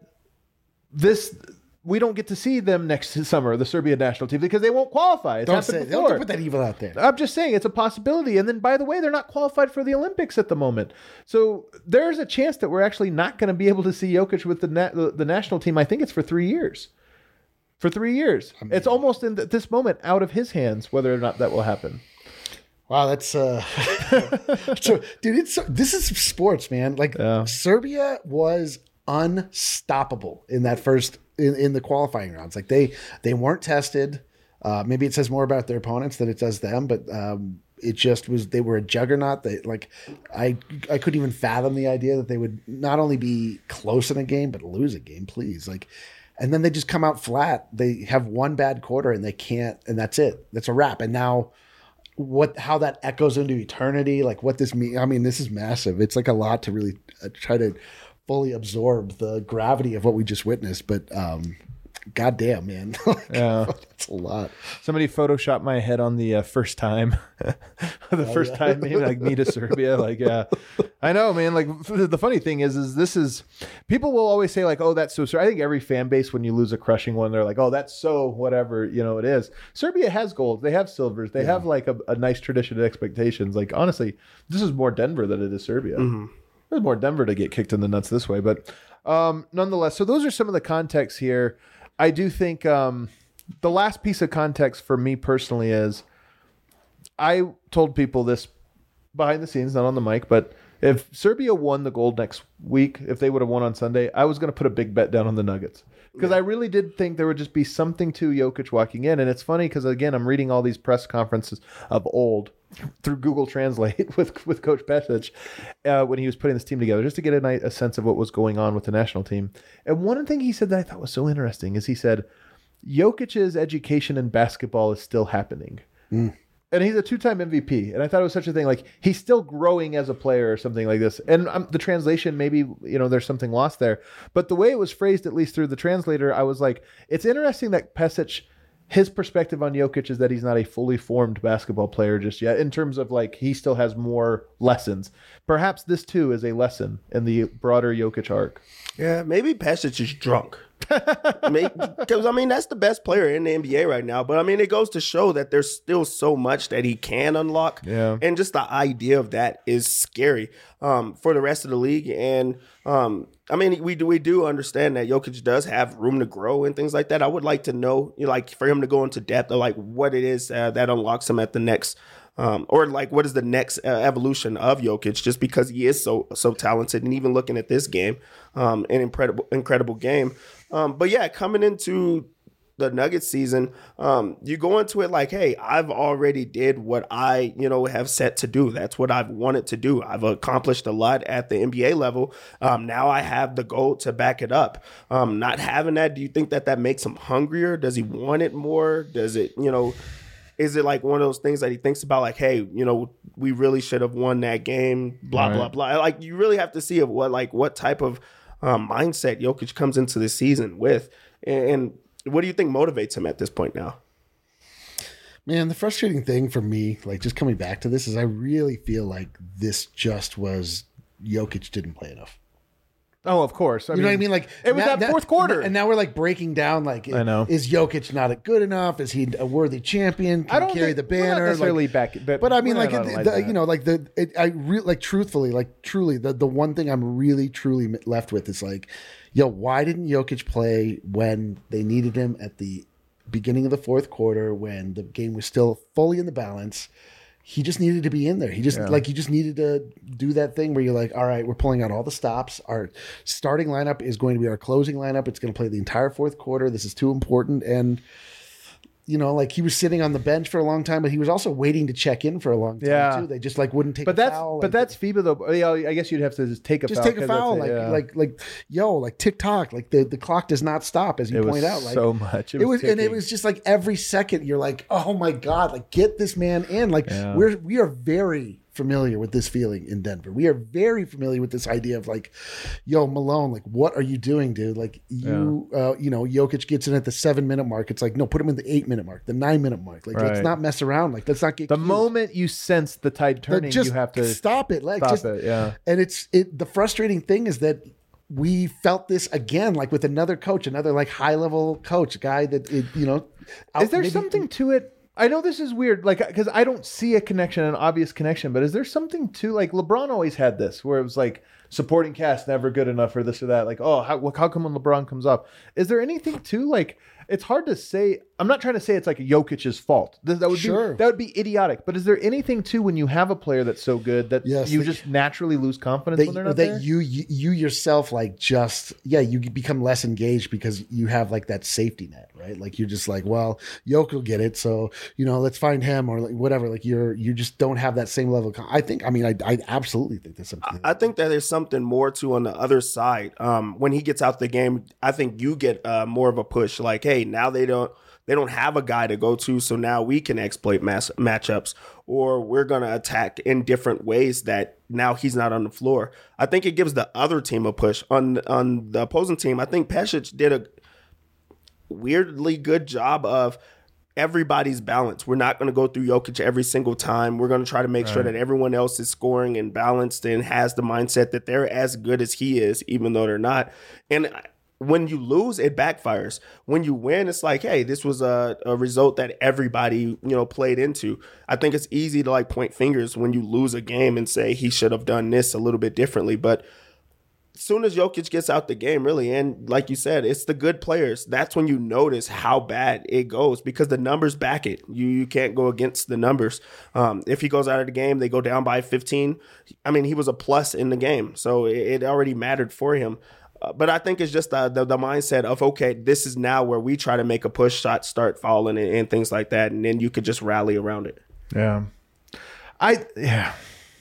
this we don't get to see them next summer, the Serbia national team, because they won't qualify. It's don't happened say, before. Don't put that evil out there. I'm just saying it's a possibility. And then, by the way, they're not qualified for the Olympics at the moment. So there's a chance that we're actually not going to be able to see Jokic with the, na- the the national team. I think it's for three years. For three years. I mean, it's almost in th- this moment out of his hands whether or not that will happen. Wow, that's uh, so, dude. It's this is sports, man. Like yeah. Serbia was unstoppable in that first in, in the qualifying rounds. Like they they weren't tested. Uh, maybe it says more about their opponents than it does them, but um, it just was. They were a juggernaut. They like I I couldn't even fathom the idea that they would not only be close in a game but lose a game. Please, like. And then they just come out flat. They have one bad quarter and they can't, and that's it. That's a wrap. And now what, how that echoes into eternity, like what this means. I mean, this is massive. It's like a lot to really uh, try to fully absorb the gravity of what we just witnessed. But um, goddamn, man. like, yeah. That's a lot. Somebody photoshopped my head on the uh, first time. the oh, first yeah. time, maybe like me to Serbia. Like, yeah. I know, man. Like the funny thing is, is this is people will always say like, oh, that's so. I think every fan base when you lose a crushing one, they're like, oh, that's so whatever, you know, it is. Serbia has golds, they have silvers, they yeah. have like a, a nice tradition of expectations. Like honestly, this is more Denver than it is Serbia. Mm-hmm. There's more Denver to get kicked in the nuts this way, but um, nonetheless. So those are some of the context here. I do think um, the last piece of context for me personally is I told people this behind the scenes, not on the mic, but if Serbia won the gold next week, if they would have won on Sunday, I was going to put a big bet down on the Nuggets because yeah. I really did think there would just be something to Jokic walking in. And it's funny because, again, I'm reading all these press conferences of old through Google Translate with, with Coach Pesic uh, when he was putting this team together just to get a, night, a sense of what was going on with the national team. And one thing he said that I thought was so interesting is he said, Jokic's education in basketball is still happening. Mm. And he's a two-time M V P. And I thought it was such a thing. Like, he's still growing as a player or something like this. And um, the translation, maybe, you know, there's something lost there. But the way it was phrased, at least through the translator, I was like, it's interesting that Pesic, his perspective on Jokic is that he's not a fully formed basketball player just yet in terms of, like, he still has more lessons. Perhaps this, too, is a lesson in the broader Jokic arc. Yeah, maybe Pesic is drunk. Because, I mean, that's the best player in the N B A right now. But, I mean, it goes to show that there's still so much that he can unlock. Yeah. And just the idea of that is scary um, for the rest of the league. And, um, I mean, we do we do understand that Jokic does have room to grow and things like that. I would like to know, you know, like, for him to go into depth of, like, what it is uh, that unlocks him at the next Um, or like, what is the next uh, evolution of Jokic? Just because he is so so talented, and even looking at this game, um, an incredible incredible game. Um, but yeah, coming into the Nuggets season, um, you go into it like, hey, I've already did what I you know have set to do. That's what I've wanted to do. I've accomplished a lot at the N B A level. Um, now I have the goal to back it up. Um, not having that, do you think that that makes him hungrier? Does he want it more? Does it you know? is it like one of those things that he thinks about, like, hey, you know, we really should have won that game, blah, Right. blah, blah. Like, you really have to see of what, like, what type of um, mindset Jokic comes into the season with. And, and what do you think motivates him at this point now? Man, the frustrating thing for me, like just coming back to this, is I really feel like this just was Jokic didn't play enough. Oh, of course. I You know what I mean? Like it was now- that now- fourth quarter. and now we're like breaking down. Like, I know. is Jokic not good enough? Is he a worthy champion? Can I don't he carry think, the we're not banner? necessarily Like, back, but, but I mean, we're like not the, like the, that. you know, like the it, I re- like truthfully, like truly, the the one thing I'm really truly left with is like, yo, why didn't Jokic play when they needed him at the beginning of the fourth quarter when the game was still fully in the balance? He just needed to be in there. He just Yeah. like he just needed to do that thing where you're like, all right, we're pulling out all the stops. Our starting lineup is going to be our closing lineup. It's going to play the entire fourth quarter. This is too important. And you know, like he was sitting on the bench for a long time, but he was also waiting to check in for a long time Yeah. too. They just like wouldn't take. But a that's foul. but Like, that's FIBA though. Yeah, I guess you'd have to just take a just foul. take a 'cause that's foul. it, Like yeah. like like yo, like tick tock. Like the, the clock does not stop, as you it was point out. Like so much. It it was, was, and it ticking. was just like every second you're like, oh my god, like get this man in. Like Yeah. we're we are very familiar with this feeling in Denver. We are very familiar with this idea of like, yo, Malone, like what are you doing, dude? Like you, uh, you know, Jokic gets in at the seven minute mark. It's like, no, put him in the eight minute mark, the nine minute mark. Like let's Right. not mess around. Like let's not get the cute. moment you sense the tide Like, turning, just you have to stop it. Like stop just, it. Yeah. and it's it. The frustrating thing is that we felt this again, like with another coach, another like high level coach, a guy that it, you know. out- Is there maybe- something to it? I know this is weird, like because I don't see a connection, an obvious connection. But is there something to like LeBron always had this, where it was like supporting cast never good enough or this or that. Like, oh, how, how come when LeBron comes up? Is there anything to like? It's hard to say. I'm not trying to say it's like Jokic's fault. That, that would Sure. be that would be idiotic. But is there anything to when you have a player that's so good that Yes, you that- just naturally lose confidence that, when they're not that there? you, you you yourself like just yeah you become less engaged because you have like that safety net, right? Like you're just like, well, Jokic will get it, so you know let's find him or like whatever. Like you're you just don't have that same level of con- I think I mean I, I absolutely think there's something I think that there's something more to on the other side. Um, when he gets out the game, I think you get uh, more of a push. Like, hey, now they don't they don't have a guy to go to, so now we can exploit mass matchups, or we're gonna attack in different ways that now he's not on the floor. I think it gives the other team a push. On on the opposing team, I think Pesic did a weirdly good job of everybody's balance. We're not going to go through Jokic every single time. We're going to try to make sure that everyone else is scoring and balanced and has the mindset that they're as good as he is, even though they're not. And when you lose, it backfires. When you win, it's like, hey, this was a, a result that everybody, you know, played into. I think it's easy to like point fingers when you lose a game and say he should have done this a little bit differently. But as soon as Jokic gets out the game, really, and like you said, it's the good players. That's when you notice how bad it goes because the numbers back it. You you can't go against the numbers. Um, if he goes out of the game, they go down by fifteen. I mean, he was a plus in the game, so it, it already mattered for him. Uh, but I think it's just the, the the mindset of, okay, this is now where we try to make a push, shots start falling and, and things like that, and then you could just rally around it. Yeah. I yeah.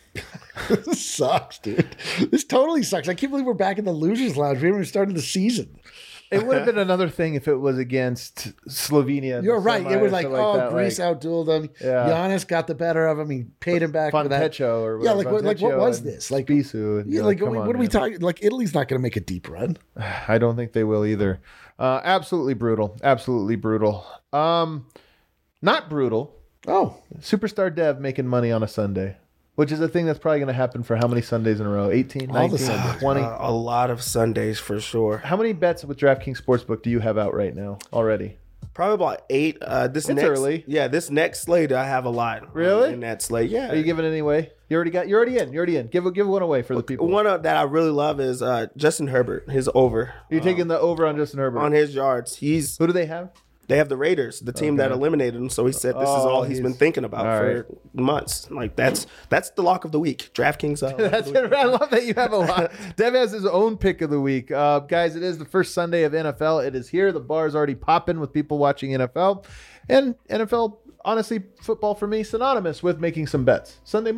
This sucks, dude. This totally sucks. I can't believe we're back in the losers lounge. We haven't even started the season. It would have been another thing if it was against Slovenia. in You're the right. semi It was or like, something oh, that, Greece like, outdueled him. Yeah. Giannis got the better of him. He paid him back for that. Fontecho or Yeah, whatever, like what, like what Fontecchio was and this? Like, Spissu. and yeah, you're like come what, on, what are we man. talking? Like Italy's not going to make a deep run. I don't think they will either. Uh, absolutely brutal. Absolutely brutal. Um, not brutal. Oh, Superstar Dev making money on a Sunday, which is a thing that's probably going to happen for how many Sundays in a row? eighteen, All the nineteen, Sundays. twenty? Uh, a lot of Sundays for sure. How many bets with DraftKings Sportsbook do you have out right now already? Probably about eight. Uh, this It's next, early. Yeah, this next slate I have a lot. um, Really? in that slate, yeah. Are you giving it any away? You already got. You're already in. You're already in. Give give one away for the people. One of, that I really love is uh, Justin Herbert. His over Are you taking the over on Justin Herbert? on his yards. He's Who do they have? they have the Raiders, the team that eliminated him. So he said this is Oh, all he's been he's- thinking about all for right. months. Like that's that's the lock of the week. DraftKings. Uh, lock of That's the week. it. I love that you have a lot. Dev has his own pick of the week. Uh, guys, it is the first Sunday of N F L. It is here. The bar is already popping with people watching N F L. And N F L, honestly, football for me, synonymous with making some bets. Sunday morning.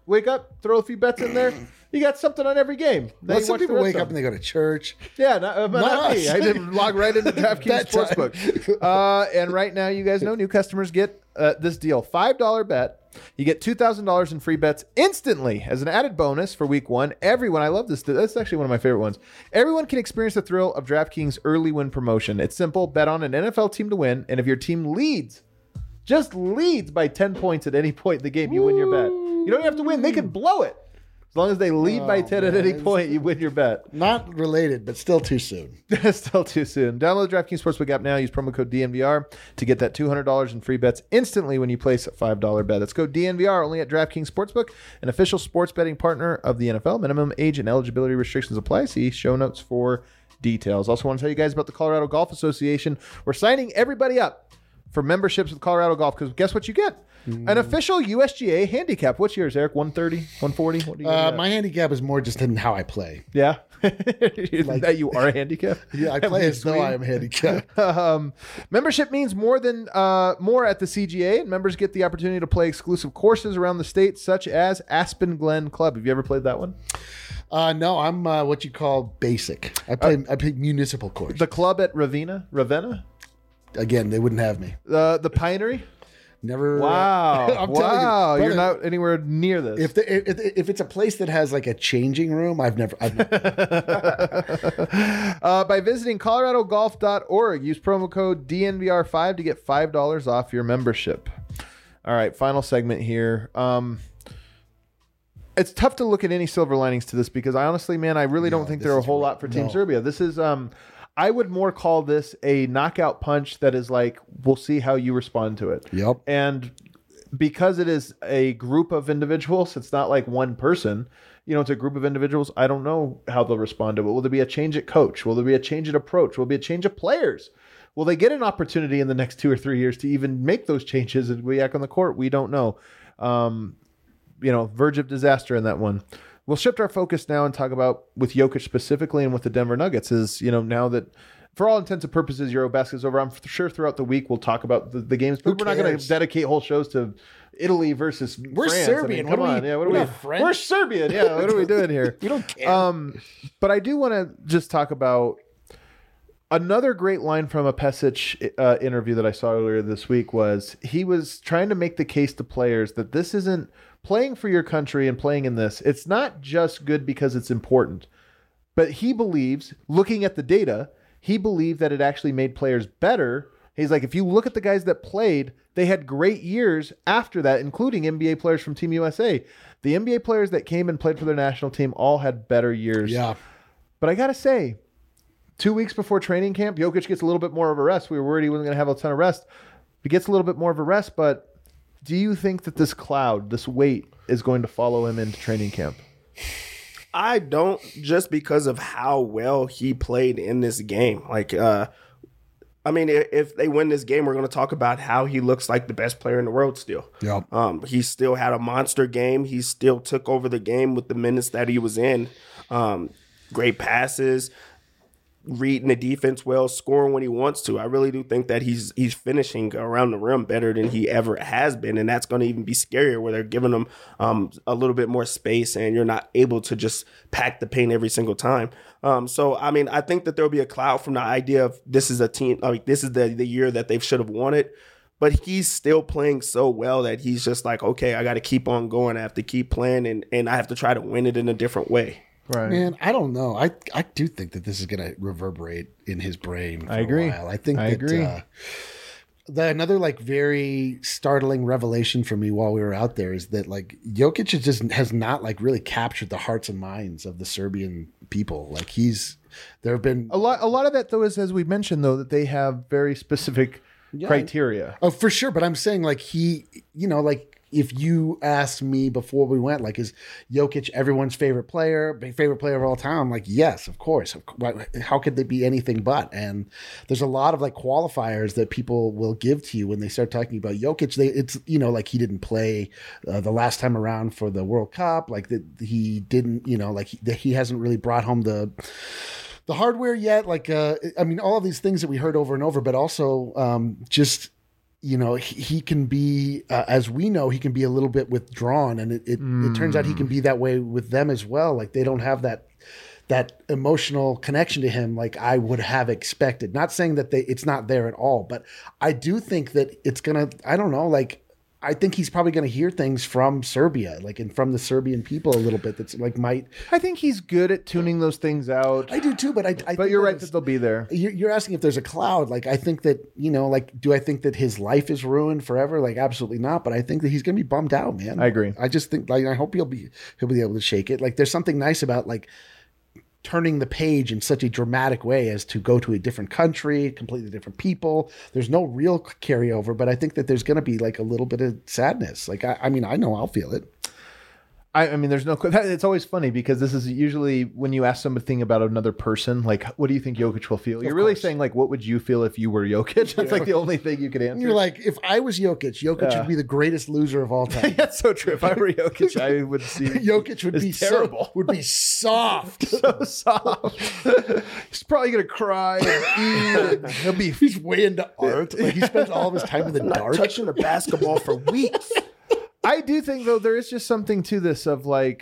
wake up, throw a few bets in there. You got something on every game. Then Well, you some watch the people rest wake of up them. and they go to church. Yeah, not, uh, but Not not me. us. I didn't log right into DraftKings That time. Sportsbook. Uh, and right now, you guys know new customers get uh, this deal. five dollar bet. You get two thousand dollars in free bets instantly as an added bonus for week one. Everyone, I love this. That's actually one of my favorite ones. Everyone can experience the thrill of DraftKings early win promotion. It's simple. Bet on an N F L team to win. And if your team leads, just leads by ten points at any point in the game, you win your bet. You don't have to win. They can blow it. As long as they lead by ten at any point, you win your bet. Not related, but still too soon. Still too soon. Download the DraftKings Sportsbook app now. Use promo code D N V R to get that two hundred dollars in free bets instantly when you place a five dollar bet. That's code D N V R only at DraftKings Sportsbook, an official sports betting partner of the N F L. Minimum age and eligibility restrictions apply. See show notes for details. Also want to tell you guys about the Colorado Golf Association. We're signing everybody up for memberships with Colorado Golf because guess what you get? An official U S G A handicap. What's yours, Eric? one thirty, one forty? What do you Uh, got? my handicap is more just in how I play. Yeah. That you are handicapped? Yeah, I play as though I am handicapped. Um, membership means more than uh, more at the C G A, and members get the opportunity to play exclusive courses around the state, such as Aspen Glen Club. Have you ever played that one? Uh, no, I'm uh, what you call basic. I play I play municipal course. The club at Ravenna, Ravenna, Again, they wouldn't have me. uh, the Pinery. Never. Wow, I'm telling wow, you, you're brother, not anywhere near this. If, the, if if it's a place that has like a changing room, I've never. I've never uh, by visiting colorado golf dot org, use promo code D N V R five to get five dollars off your membership. All right, final segment here. Um, it's tough to look at any silver linings to this because I honestly, man, I really don't think this there are a is whole real- lot for Team no. Serbia. This is, um, I would more call this a knockout punch that is like, we'll see how you respond to it. Yep. And because it is a group of individuals, it's not like one person. You know, it's a group of individuals. I don't know how they'll respond to it. Will there be a change at coach? Will there be a change at approach? Will there be a change of players? Will they get an opportunity in the next two or three years to even make those changes and react on the court? We don't know. Um, you know, verge of disaster in that one. We'll shift our focus now and talk about with Jokic specifically and with the Denver Nuggets is, you know, now that for all intents and purposes, Eurobasket is over. I'm sure throughout the week we'll talk about the, the games, but Who we're not going to cares? dedicate whole shows to Italy versus We're France. Serbian. I mean, come What are on. we- Yeah, what are we're we? not French. We're Serbian. Yeah, what are we doing here? You don't care. Um, but I do want to just talk about another great line from a Pesic uh, interview that I saw earlier this week was he was trying to make the case to players that this isn't playing for your country and playing in this. It's not just good because it's important, but he believes, looking at the data, he believed that it actually made players better. He's like, if you look at the guys that played, they had great years after that, including N B A players from Team U S A. The N B A players that came and played for their national team all had better years. yeah. But I got to say, two weeks before training camp, Jokic gets a little bit more of a rest. We were worried he wasn't going to have a ton of rest. He gets a little bit more of a rest, but do you think that this cloud, this weight, is going to follow him into training camp? I don't, just because of how well he played in this game. Like, uh, I mean, if, if they win this game, we're going to talk about how he looks like the best player in the world still. Yep. Um, he still had a monster game. He still took over the game with the minutes that he was in. Um, great passes, reading the defense well, scoring when he wants to. I really do think that he's he's finishing around the rim better than he ever has been, and that's going to even be scarier where they're giving him um, a little bit more space and you're not able to just pack the paint every single time. Um, so, I mean, I think that there'll be a cloud from the idea of this is a team, like this is the, the year that they should have won it. But he's still playing so well that he's just like, okay, I got to keep on going. I have to keep playing, and, and I have to try to win it in a different way. Right. Man, I don't know. I I do think that this is going to reverberate in his brain. For I agree. A while. I think I that, agree. Uh, the another like very startling revelation for me while we were out there is that like Jokic is just has not like really captured the hearts and minds of the Serbian people. Like he's there have been A lot, a lot of that, though, is, as we mentioned, though, that they have very specific criteria. Oh, for sure. But I'm saying like he, you know, like if you asked me before we went, like, is Jokic everyone's favorite player, favorite player of all time? I'm like, yes, of course. Of course. How could they be anything but? And there's a lot of like qualifiers that people will give to you when they start talking about Jokic. They, it's, you know, like he didn't play uh, the last time around for the World Cup. Like that he didn't, you know, like he, that he hasn't really brought home the, the hardware yet. Like, uh, I mean, all of these things that we heard over and over, but also um, just you know, he, he can be, uh, as we know, he can be a little bit withdrawn, and it it, Mm. it turns out he can be that way with them as well. Like they don't have that that emotional connection to him like I would have expected. Not saying that they it's not there at all, but I do think that it's gonna. I don't know, like. I think he's probably going to hear things from Serbia, like and from the Serbian people a little bit. That's like might. I think he's good at tuning those things out. I do too, but I. I but think you're that right it's- that they'll be there. You're you're asking if there's a cloud. Like I think that you know, like, do I think that his life is ruined forever? Like absolutely not. But I think that he's going to be bummed out, man. I agree. I just think, like, I hope he'll be he'll be able to shake it. Like there's something nice about like turning the page in such a dramatic way as to go to a different country, completely different people. There's no real carryover, but I think that there's going to be like a little bit of sadness. Like, I, I mean, I know I'll feel it. I, I mean, there's no. It's always funny because this is usually when you ask something about another person, like, what do you think Jokic will feel? You're really course. saying, like, what would you feel if you were Jokic? That's like the only thing you could answer. And you're like, if I was Jokic, Jokic Yeah. would be the greatest loser of all time. That's so true. If I were Jokic, I would see Jokic would It's be terrible. So, would be soft. so soft. He's probably gonna cry and eat. He'll be. He's way into art. Like he spends all of his time in the Not dark. touching the basketball for weeks. I do think though there is just something to this of like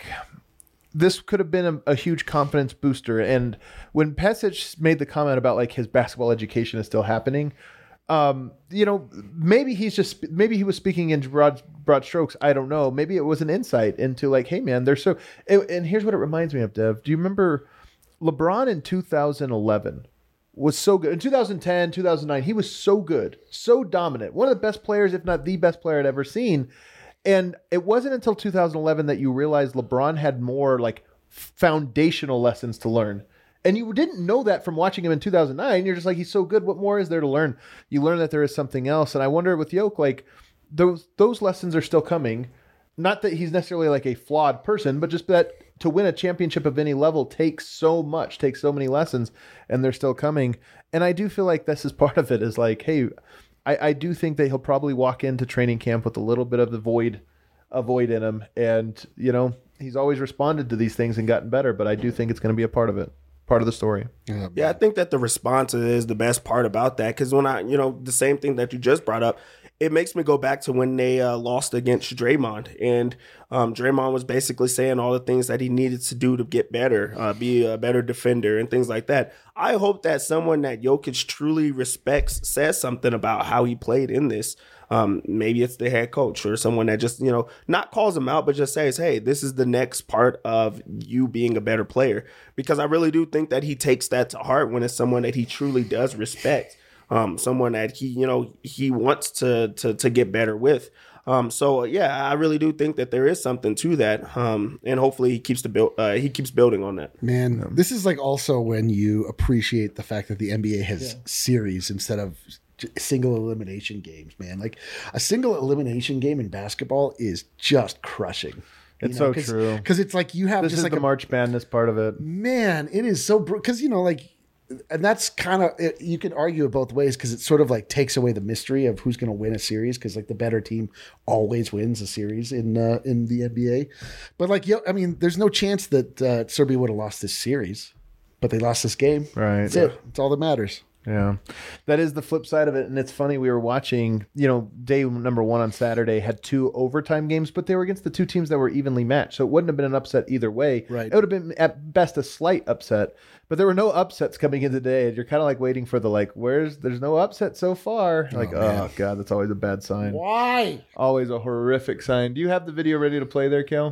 this could have been a, a huge confidence booster. And when Pesic made the comment about like his basketball education is still happening, um, you know, maybe he's just maybe he was speaking in broad broad strokes. I don't know. Maybe it was an insight into like, hey man, they're so. And, and here's what it reminds me of, Dev. Do you remember LeBron in two thousand eleven? Was so good in two thousand ten, two thousand nine. He was so good, so dominant. One of the best players, if not the best player I'd ever seen. And it wasn't until two thousand eleven that you realized LeBron had more like foundational lessons to learn. And you didn't know that from watching him in two thousand nine. You're just like, he's so good. What more is there to learn? You learn that there is something else. And I wonder with Yoke, like those those lessons are still coming. Not that he's necessarily like a flawed person, but just that to win a championship of any level takes so much, takes so many lessons, and they're still coming. And I do feel like this is part of it is like, hey, I, I do think that he'll probably walk into training camp with a little bit of the void, a void in him. And, you know, he's always responded to these things and gotten better, but I do think it's going to be a part of it, part of the story. Yeah, Yeah, I think that the response is the best part about that because when I, you know, the same thing that you just brought up, it makes me go back to when they uh, lost against Draymond. And um, Draymond was basically saying all the things that he needed to do to get better, uh, be a better defender and things like that. I hope that someone that Jokic truly respects says something about how he played in this. Um, maybe it's the head coach or someone that just, you know, not calls him out, but just says, hey, this is the next part of you being a better player. Because I really do think that he takes that to heart when it's someone that he truly does respect. Um, someone that he, you know, he wants to to to get better with. Um, so yeah, I really do think that there is something to that. Um, and hopefully he keeps the build. Uh, he keeps building on that. Man, this is like also when you appreciate the fact that the N B A has series instead of j- single elimination games, man. Like a single elimination game in basketball is just crushing. It's so cause, true. Because it's like you have This just is like the a March Madness part of it. man, it is so because you know like. And that's kind of you can argue it both ways because it sort of like takes away the mystery of who's going to win a series because like the better team always wins a series in uh, in the N B A. But like, yo, I mean, there's no chance that uh, Serbia would have lost this series, but they lost this game. Right. That's it. That's all that matters. Yeah, that is the flip side of it. And it's funny, we were watching, you know, day number one on Saturday had two overtime games, but they were against the two teams that were evenly matched. So it wouldn't have been an upset either way. Right. It would have been at best a slight upset, but there were no upsets coming in today. And you're kind of like waiting for the, like, where's, there's no upset so far. Like, oh, man. God, that's always a bad sign. Why? Always a horrific sign. Do you have the video ready to play there, Kel?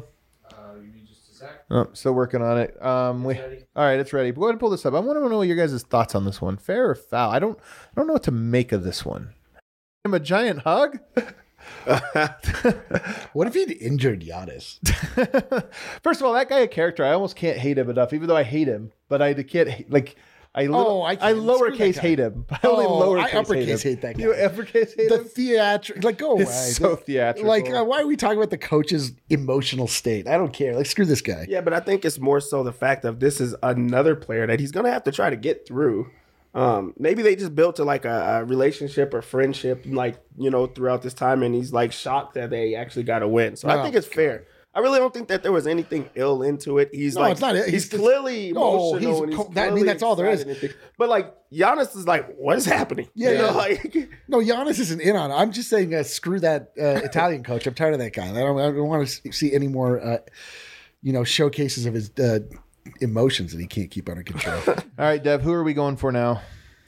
Oh, still working on it. Um, we, all right, it's ready. Go ahead and pull this up. I want to know your guys' thoughts on this one. Fair or foul? I don't, I don't know what to make of this one. I'm a giant hug. What if he'd injured Giannis? First of all, that guy a character. I almost can't hate him enough, even though I hate him. But I can't hate, like. I, Oh, little, I I, can't. Screw lowercase that guy. hate him. I only Oh, lowercase I uppercase hate, him. hate that guy. You uppercase hate The him? theatric, like go away. It's so theatrical. Like, uh, why are we talking about the coach's emotional state? I don't care. Like, screw this guy. Yeah, but I think it's more so the fact of this is another player that he's going to have to try to get through. Um, maybe they just built to like a, a relationship or friendship, like, you know, throughout this time. And he's like shocked that they actually got a win. So I Oh, think it's fair. I really don't think that there was anything ill into it. He's No, like, it's not. He's he's, just- clearly No, emotional. he's and he's co- that- I mean, clearly that's all there is. excited and things. But like Giannis is like, what is happening? Yeah, You know, yeah. like No, Giannis isn't in on it. I'm just saying, uh, screw that uh, Italian coach. I'm tired of that guy. I don't, I don't want to see any more, uh, you know, showcases of his uh, emotions that he can't keep under control. All right, Dev, who are we going for now?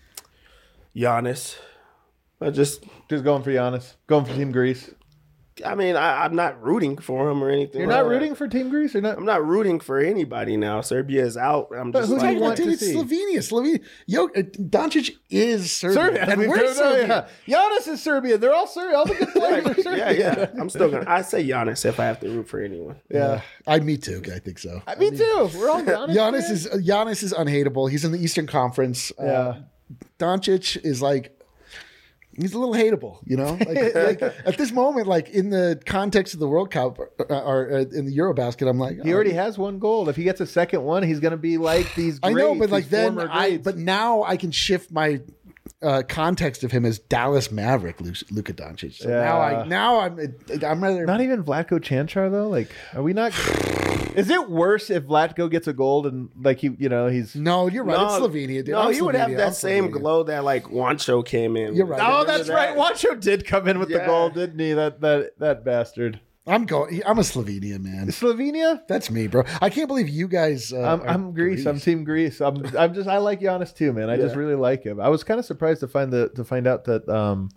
Giannis. I just, Just going for Giannis. Going for Team Greece. I mean, I, I'm not rooting for him or anything. You're like not that. rooting for Team Greece or not? I'm not rooting for anybody now. Serbia is out. I'm But just who do like, you want Dude, to it's see? Slovenia. Slovenia. Yo, uh, Doncic is Serbia. Serbia. And I mean, we're no, no, Serbia. yeah. Giannis is Serbia. They're all Serbia. All the good players are Serbia. yeah, yeah. I'm still gonna. I say Giannis if I have to root for anyone. Yeah. I, me too. I think so. I, me too. We're all Giannis. Giannis fans. is uh, Giannis is unhateable. He's in the Eastern Conference. Uh, Yeah. Doncic is like he's a little hateable, you know. Like, like at this moment, like in the context of the World Cup or, or uh, in the Eurobasket, I'm like He already has one goal. If he gets a second one, he's going to be like these I greats, know, but like these then former I greats. but now I can shift my uh, context of him as Dallas Maverick Lu- Luka Doncic. So now Yeah. I now I'm I'm rather Not even Vlatko Chanchar though. Like, are we not? Is it worse if Vlatko gets a gold and like he, you know, he's? no. You're right. it's Slovenia. Dude. No, I'm he would have Slovenia. that I'm same Slovenia. glow that like Wancho came in. You're with. right. Oh, Remember that's that? right. Wancho did come in with the Yeah. goal, didn't he? That that that bastard. I'm going. I'm a Slovenia man. Slovenia. That's me, bro. I can't believe you guys. Uh, I'm, are I'm Greece. I'm Team Greece. I'm I'm just I like Giannis too, man. I just Yeah. really like him. I was kind of surprised to find the to find out that um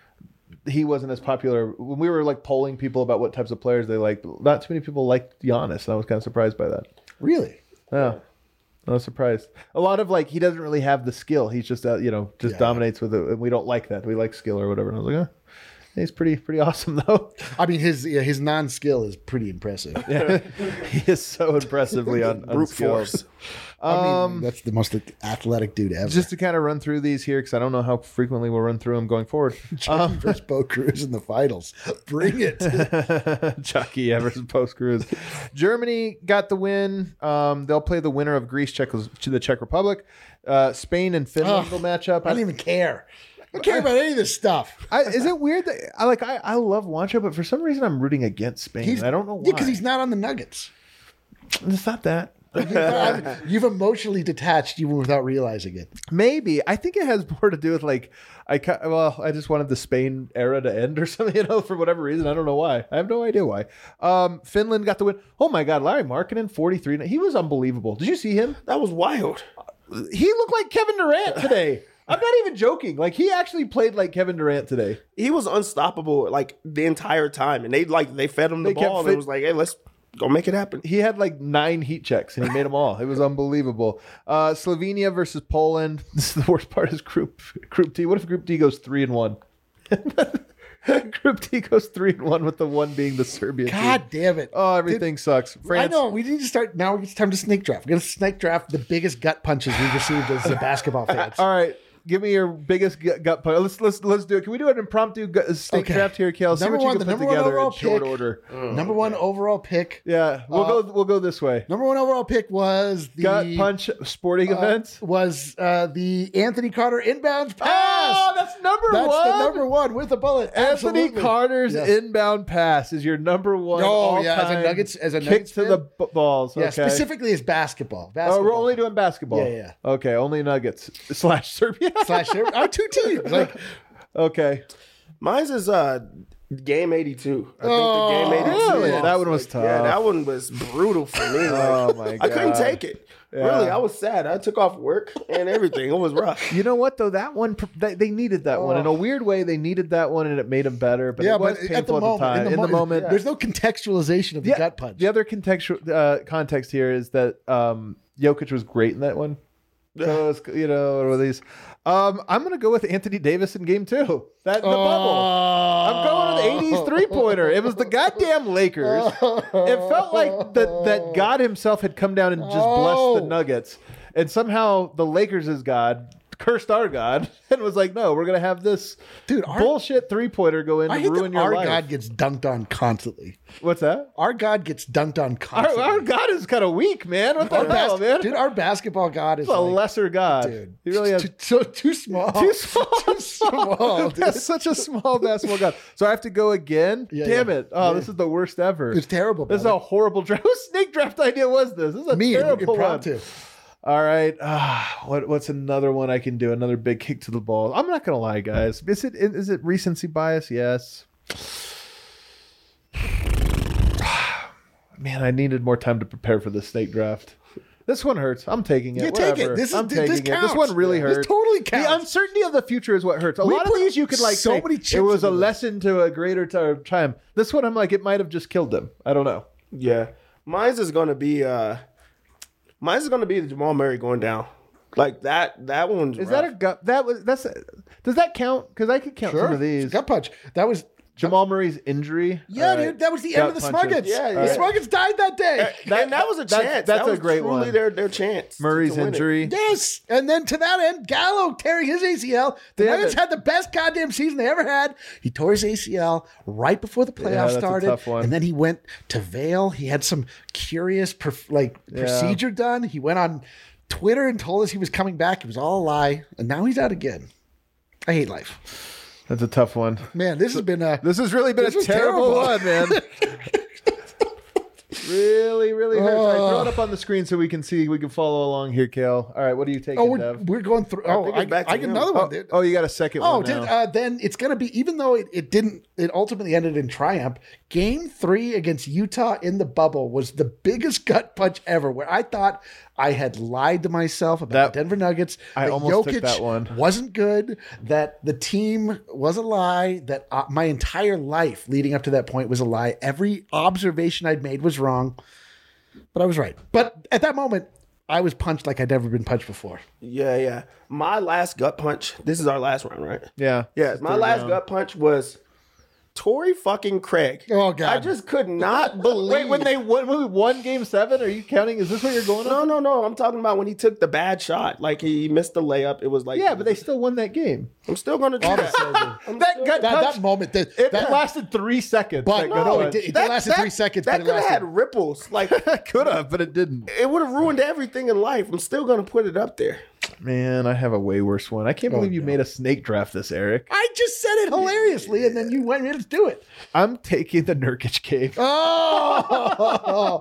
he wasn't as popular when we were like polling people about what types of players they liked. Not too many people liked Giannis, and I was kind of surprised by that. Really? Yeah. I was surprised. A lot of like he doesn't really have the skill. He's just uh, you know just Yeah. dominates with it, and we don't like that. We like skill or whatever. And I was like, oh, he's pretty pretty awesome though. I mean, his yeah, his non skill is pretty impressive. He is so impressively un- Brute unskilled. force. I mean, that's the most athletic dude ever. Just to kind of run through these here, because I don't know how frequently we'll run through them going forward. Germany versus Bo Cruz in the finals. Bring it. Chucky Evers post cruise. Germany got the win. Um, they'll play the winner of Greece, Czech, to the Czech Republic. Uh, Spain and Finland Ugh, will match up. I don't even care. I don't care about any of this stuff. I, is it weird that I like I, I love Wancho, but for some reason I'm rooting against Spain. He's, I don't know why. Yeah, because he's not on the Nuggets. It's not that. You've, you've emotionally detached even without realizing it. Maybe I think it has more to do with like I ca- well I just wanted the Spain era to end or something, you know, for whatever reason. I don't know why. I have no idea why. Um, Finland got the win. Oh my God, Larry Markkinen, forty-three. He was unbelievable. Did you see him? That was wild. He looked like Kevin Durant today. I'm not even joking. Like he actually played like Kevin Durant today. He was unstoppable like the entire time, and they like they fed him the They kept ball. And fit- it was like, hey, let's go make it happen. He had like nine heat checks and he made them all. It was unbelievable. Uh, Slovenia versus Poland. This is the worst part is group group D. What if group D goes three and one? Group D goes three and one with the one being the Serbia team. God damn it. Oh, everything sucks. I France. know. We need to start now. It's time to snake draft. We're going to snake draft the biggest gut punches we've received as a basketball fans. All right. Give me your biggest gut, gut punch. Let's let's let's do it. Can we do an impromptu gut, snake Okay. draft here, Kale? See Number what one, you the can put number one together in overall short pick. order. Number one overall pick. Yeah, we'll Uh, go we'll go this way. Number one overall pick was the Gut punch sporting uh, events. was uh, the Anthony Carter inbound pass. Oh, that's number That's one. the number one with a bullet. Anthony Absolutely. Carter's Yes. inbound pass is your number one. Oh, yeah, as a all-time Nuggets- as a kick Nuggets to fan? the b- balls. Yeah, okay. specifically as basketball. Oh, basketball. we're only doing basketball. Yeah, yeah. Okay, only Nuggets slash Serbia. slash our two teams. Like, Okay, Mine's is uh game eighty-two. I Oh, think the game eighty-two. really? loss. That one was Like, tough. Yeah, that one was brutal for me. Like, Oh, my I couldn't God. take it. Yeah. Really, I was sad. I took off work and everything. It was rough. you know what though? That one they, they needed that one in a weird way. They needed that one, and it made them better. But yeah, it was but painful at the moment, time. in the, in the mo- moment, there's no contextualization of the Yeah, gut punch. The other contextual uh, context here is that um, Jokic was great in that one. So it's, you know, or these. Um, I'm gonna go with Anthony Davis in Game Two. That the bubble. I'm going with the eighties three pointer. It was the goddamn Lakers. It felt like that that God himself had come down and just blessed the Oh. Nuggets, and somehow the Lakers is God cursed our God and was like, no, we're gonna have this Dude, our- bullshit three pointer go in I to hate ruin that your our life. God gets dunked on constantly. What's that? Our God gets dunked on Our, constantly. our God is kind of weak, man. What the Our hell, bas- man? Dude, our basketball God is He's a like, lesser God. dude, He really has too, so too small. too small. Too small, dude. That's such a small basketball God. So I have to go again. Yeah, Damn yeah. it! Oh, Yeah. this is the worst ever. It's terrible. This is brother. a horrible draft. Whose snake draft idea was this? This is a Me, terrible one. impromptu. All right. Ah, what what's another one I can do? Another big kick to the ball. I'm not gonna lie, guys. Is it is it recency bias? Yes. Man, I needed more time to prepare for the snake draft. This one hurts. I'm taking it. Yeah, take Whatever. it. This is I'm this taking it. counts. This one really This hurts. totally The counts. uncertainty of the future is what hurts. A We lot of put these you could like so say, many chips it was a into this. lesson to a greater t- time. This one, I'm like, it might have just killed them. I don't know. Yeah, mine's is gonna be uh, mine's is gonna be the Jamal Murray going down. Like that. That one's Is rough. that a gut? That was that's. A, does that count? Because I could count some of these. Gut punch. That was Jamal Murray's injury. yeah, All right. dude. That was the Gut end of the punches. Smuggets. Yeah, the yeah. Smuggets died that day. That- and that was a that- chance. that's that a was great truly one. Their their chance. Murray's to win it. injury. Yes, and then to that end, Gallo tearing his A C L. The Damn Nuggets it. had the best goddamn season they ever had. He tore his A C L right before the playoffs that's a started, tough one. and then he went to Vail. He had some curious perf- like procedure done. He went on Twitter and told us he was coming back. It was all a lie, and now he's out again. I hate life, That's a tough one. man. This has been a This has really been This a was terrible terrible. one, man. Really, really hurts. All right, throw it Oh. up on the screen so we can see. We can follow along here, Kale. All right, what are you taking, oh, we're, Dev? we're going through. Oh, think I, it's back to I get him. another Oh, one, dude. oh, you got a second Oh, one dude, now. uh, then it's going to be, even though it, it didn't, it ultimately ended in triumph. Game three against Utah in the bubble was the biggest gut punch ever, where I thought I had lied to myself about That- the Denver Nuggets. I that almost Jokic took that one. wasn't good, that the team was a lie, that uh, my entire life leading up to that point was a lie. Every observation I'd made was wrong, but I was right. But at that moment, I was punched like I'd never been punched before. Yeah, yeah. My last gut punch. This is our last round, right? yeah, Yeah, my Third last round. gut punch was Torrey fucking Craig. Oh, God. I just could not believe. Wait, when they won, when we won Game Seven, are you counting? Is this what you're going No, on? no, no. I'm talking about when he took the bad shot. Like he missed the layup. It was like Yeah, but they still won that game. I'm still gonna do that. I'm That still- gut That, punch. that moment, that, it that lasted three seconds. But that no, gut it punch. did- it lasted three seconds, That but it could have lasted- had ripples. Like could have, but it didn't. it would have ruined everything in life. I'm still gonna put it up there. Man, I have a way worse one. I can't believe you no. made a snake draft this, Eric. I just said it hilariously, and then you went, let's do it. I'm taking the Nurkic cave. Oh,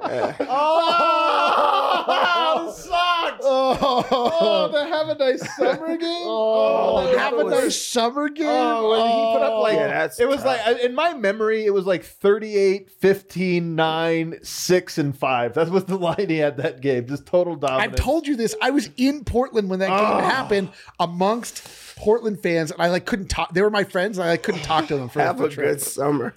Oh, sucks. Oh, to have a nice summer game. oh, that have a was- nice summer game. Oh, when he put up like Yeah, that's it was tough. like in my memory, it was like thirty-eight, fifteen, nine, six, and five. That was the line he had that game. Just total dominance. I've told you this. I was in Portland when that game Oh. happened amongst Portland fans, and I like couldn't talk. They were my friends, and I like, couldn't talk to them for Have the a trip. good summer.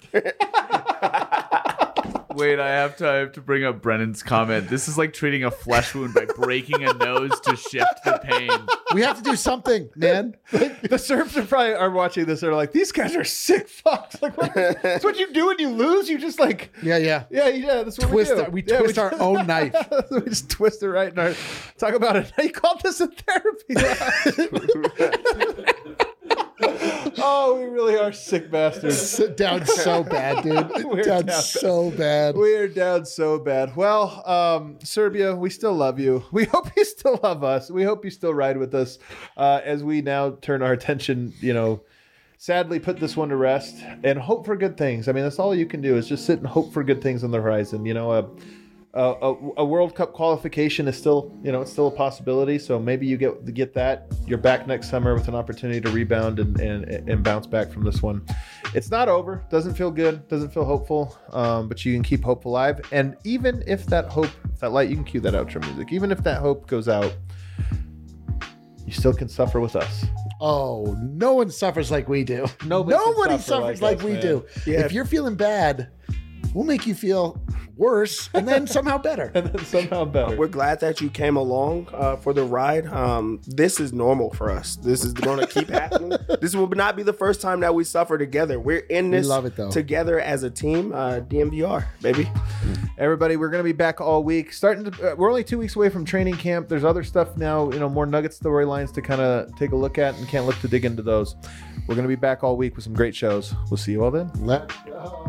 Wait, I have to I have to bring up Brennan's comment. This is like treating a flesh wound by breaking a nose to shift the pain. We have to do something, man. the Serbs are probably are watching this. They're like, these guys are sick fucks. Like, what, that's what you do when you lose. You just like, Yeah, yeah. yeah, yeah. That's what Twist we do. our- we Yeah, twist our own knife. we just twist it right in our. Talk about it. You called this a therapy class. Oh, we really are sick bastards. Sit down so bad, dude. We're down, down. so bad. We are down so bad. Well, um, Serbia, we still love you. We hope you still love us. We hope you still ride with us uh, as we now turn our attention, you know, sadly put this one to rest and hope for good things. I mean, that's all you can do is just sit and hope for good things on the horizon. You know, a, a, a World Cup qualification is still, you know, it's still a possibility. So maybe you get get that. You're back next summer with an opportunity to rebound and, and, and bounce back from this one. It's not over. Doesn't feel good. Doesn't feel hopeful. Um, but you can keep hope alive. And even if that hope, that light, you can cue that outro music. Even if that hope goes out, you still can suffer with us. Oh, no one suffers like we do. Nobody can Nobody suffer suffers like like, us, we man. do. Yeah. If you're feeling bad, we'll make you feel worse and then somehow better. And then somehow better. We're glad that you came along uh, for the ride. Um, this is normal for us. This is going to keep happening. This will not be the first time that we suffer together. We're in this love it, though. together as a team. Uh, D M V R, baby. Everybody, we're going to be back all week. Starting to, uh, we're only two weeks away from training camp. There's other stuff now, you know, more Nuggets storylines to kind of take a look at, and can't look to dig into those. We're going to be back all week with some great shows. We'll see you all then. Let's go.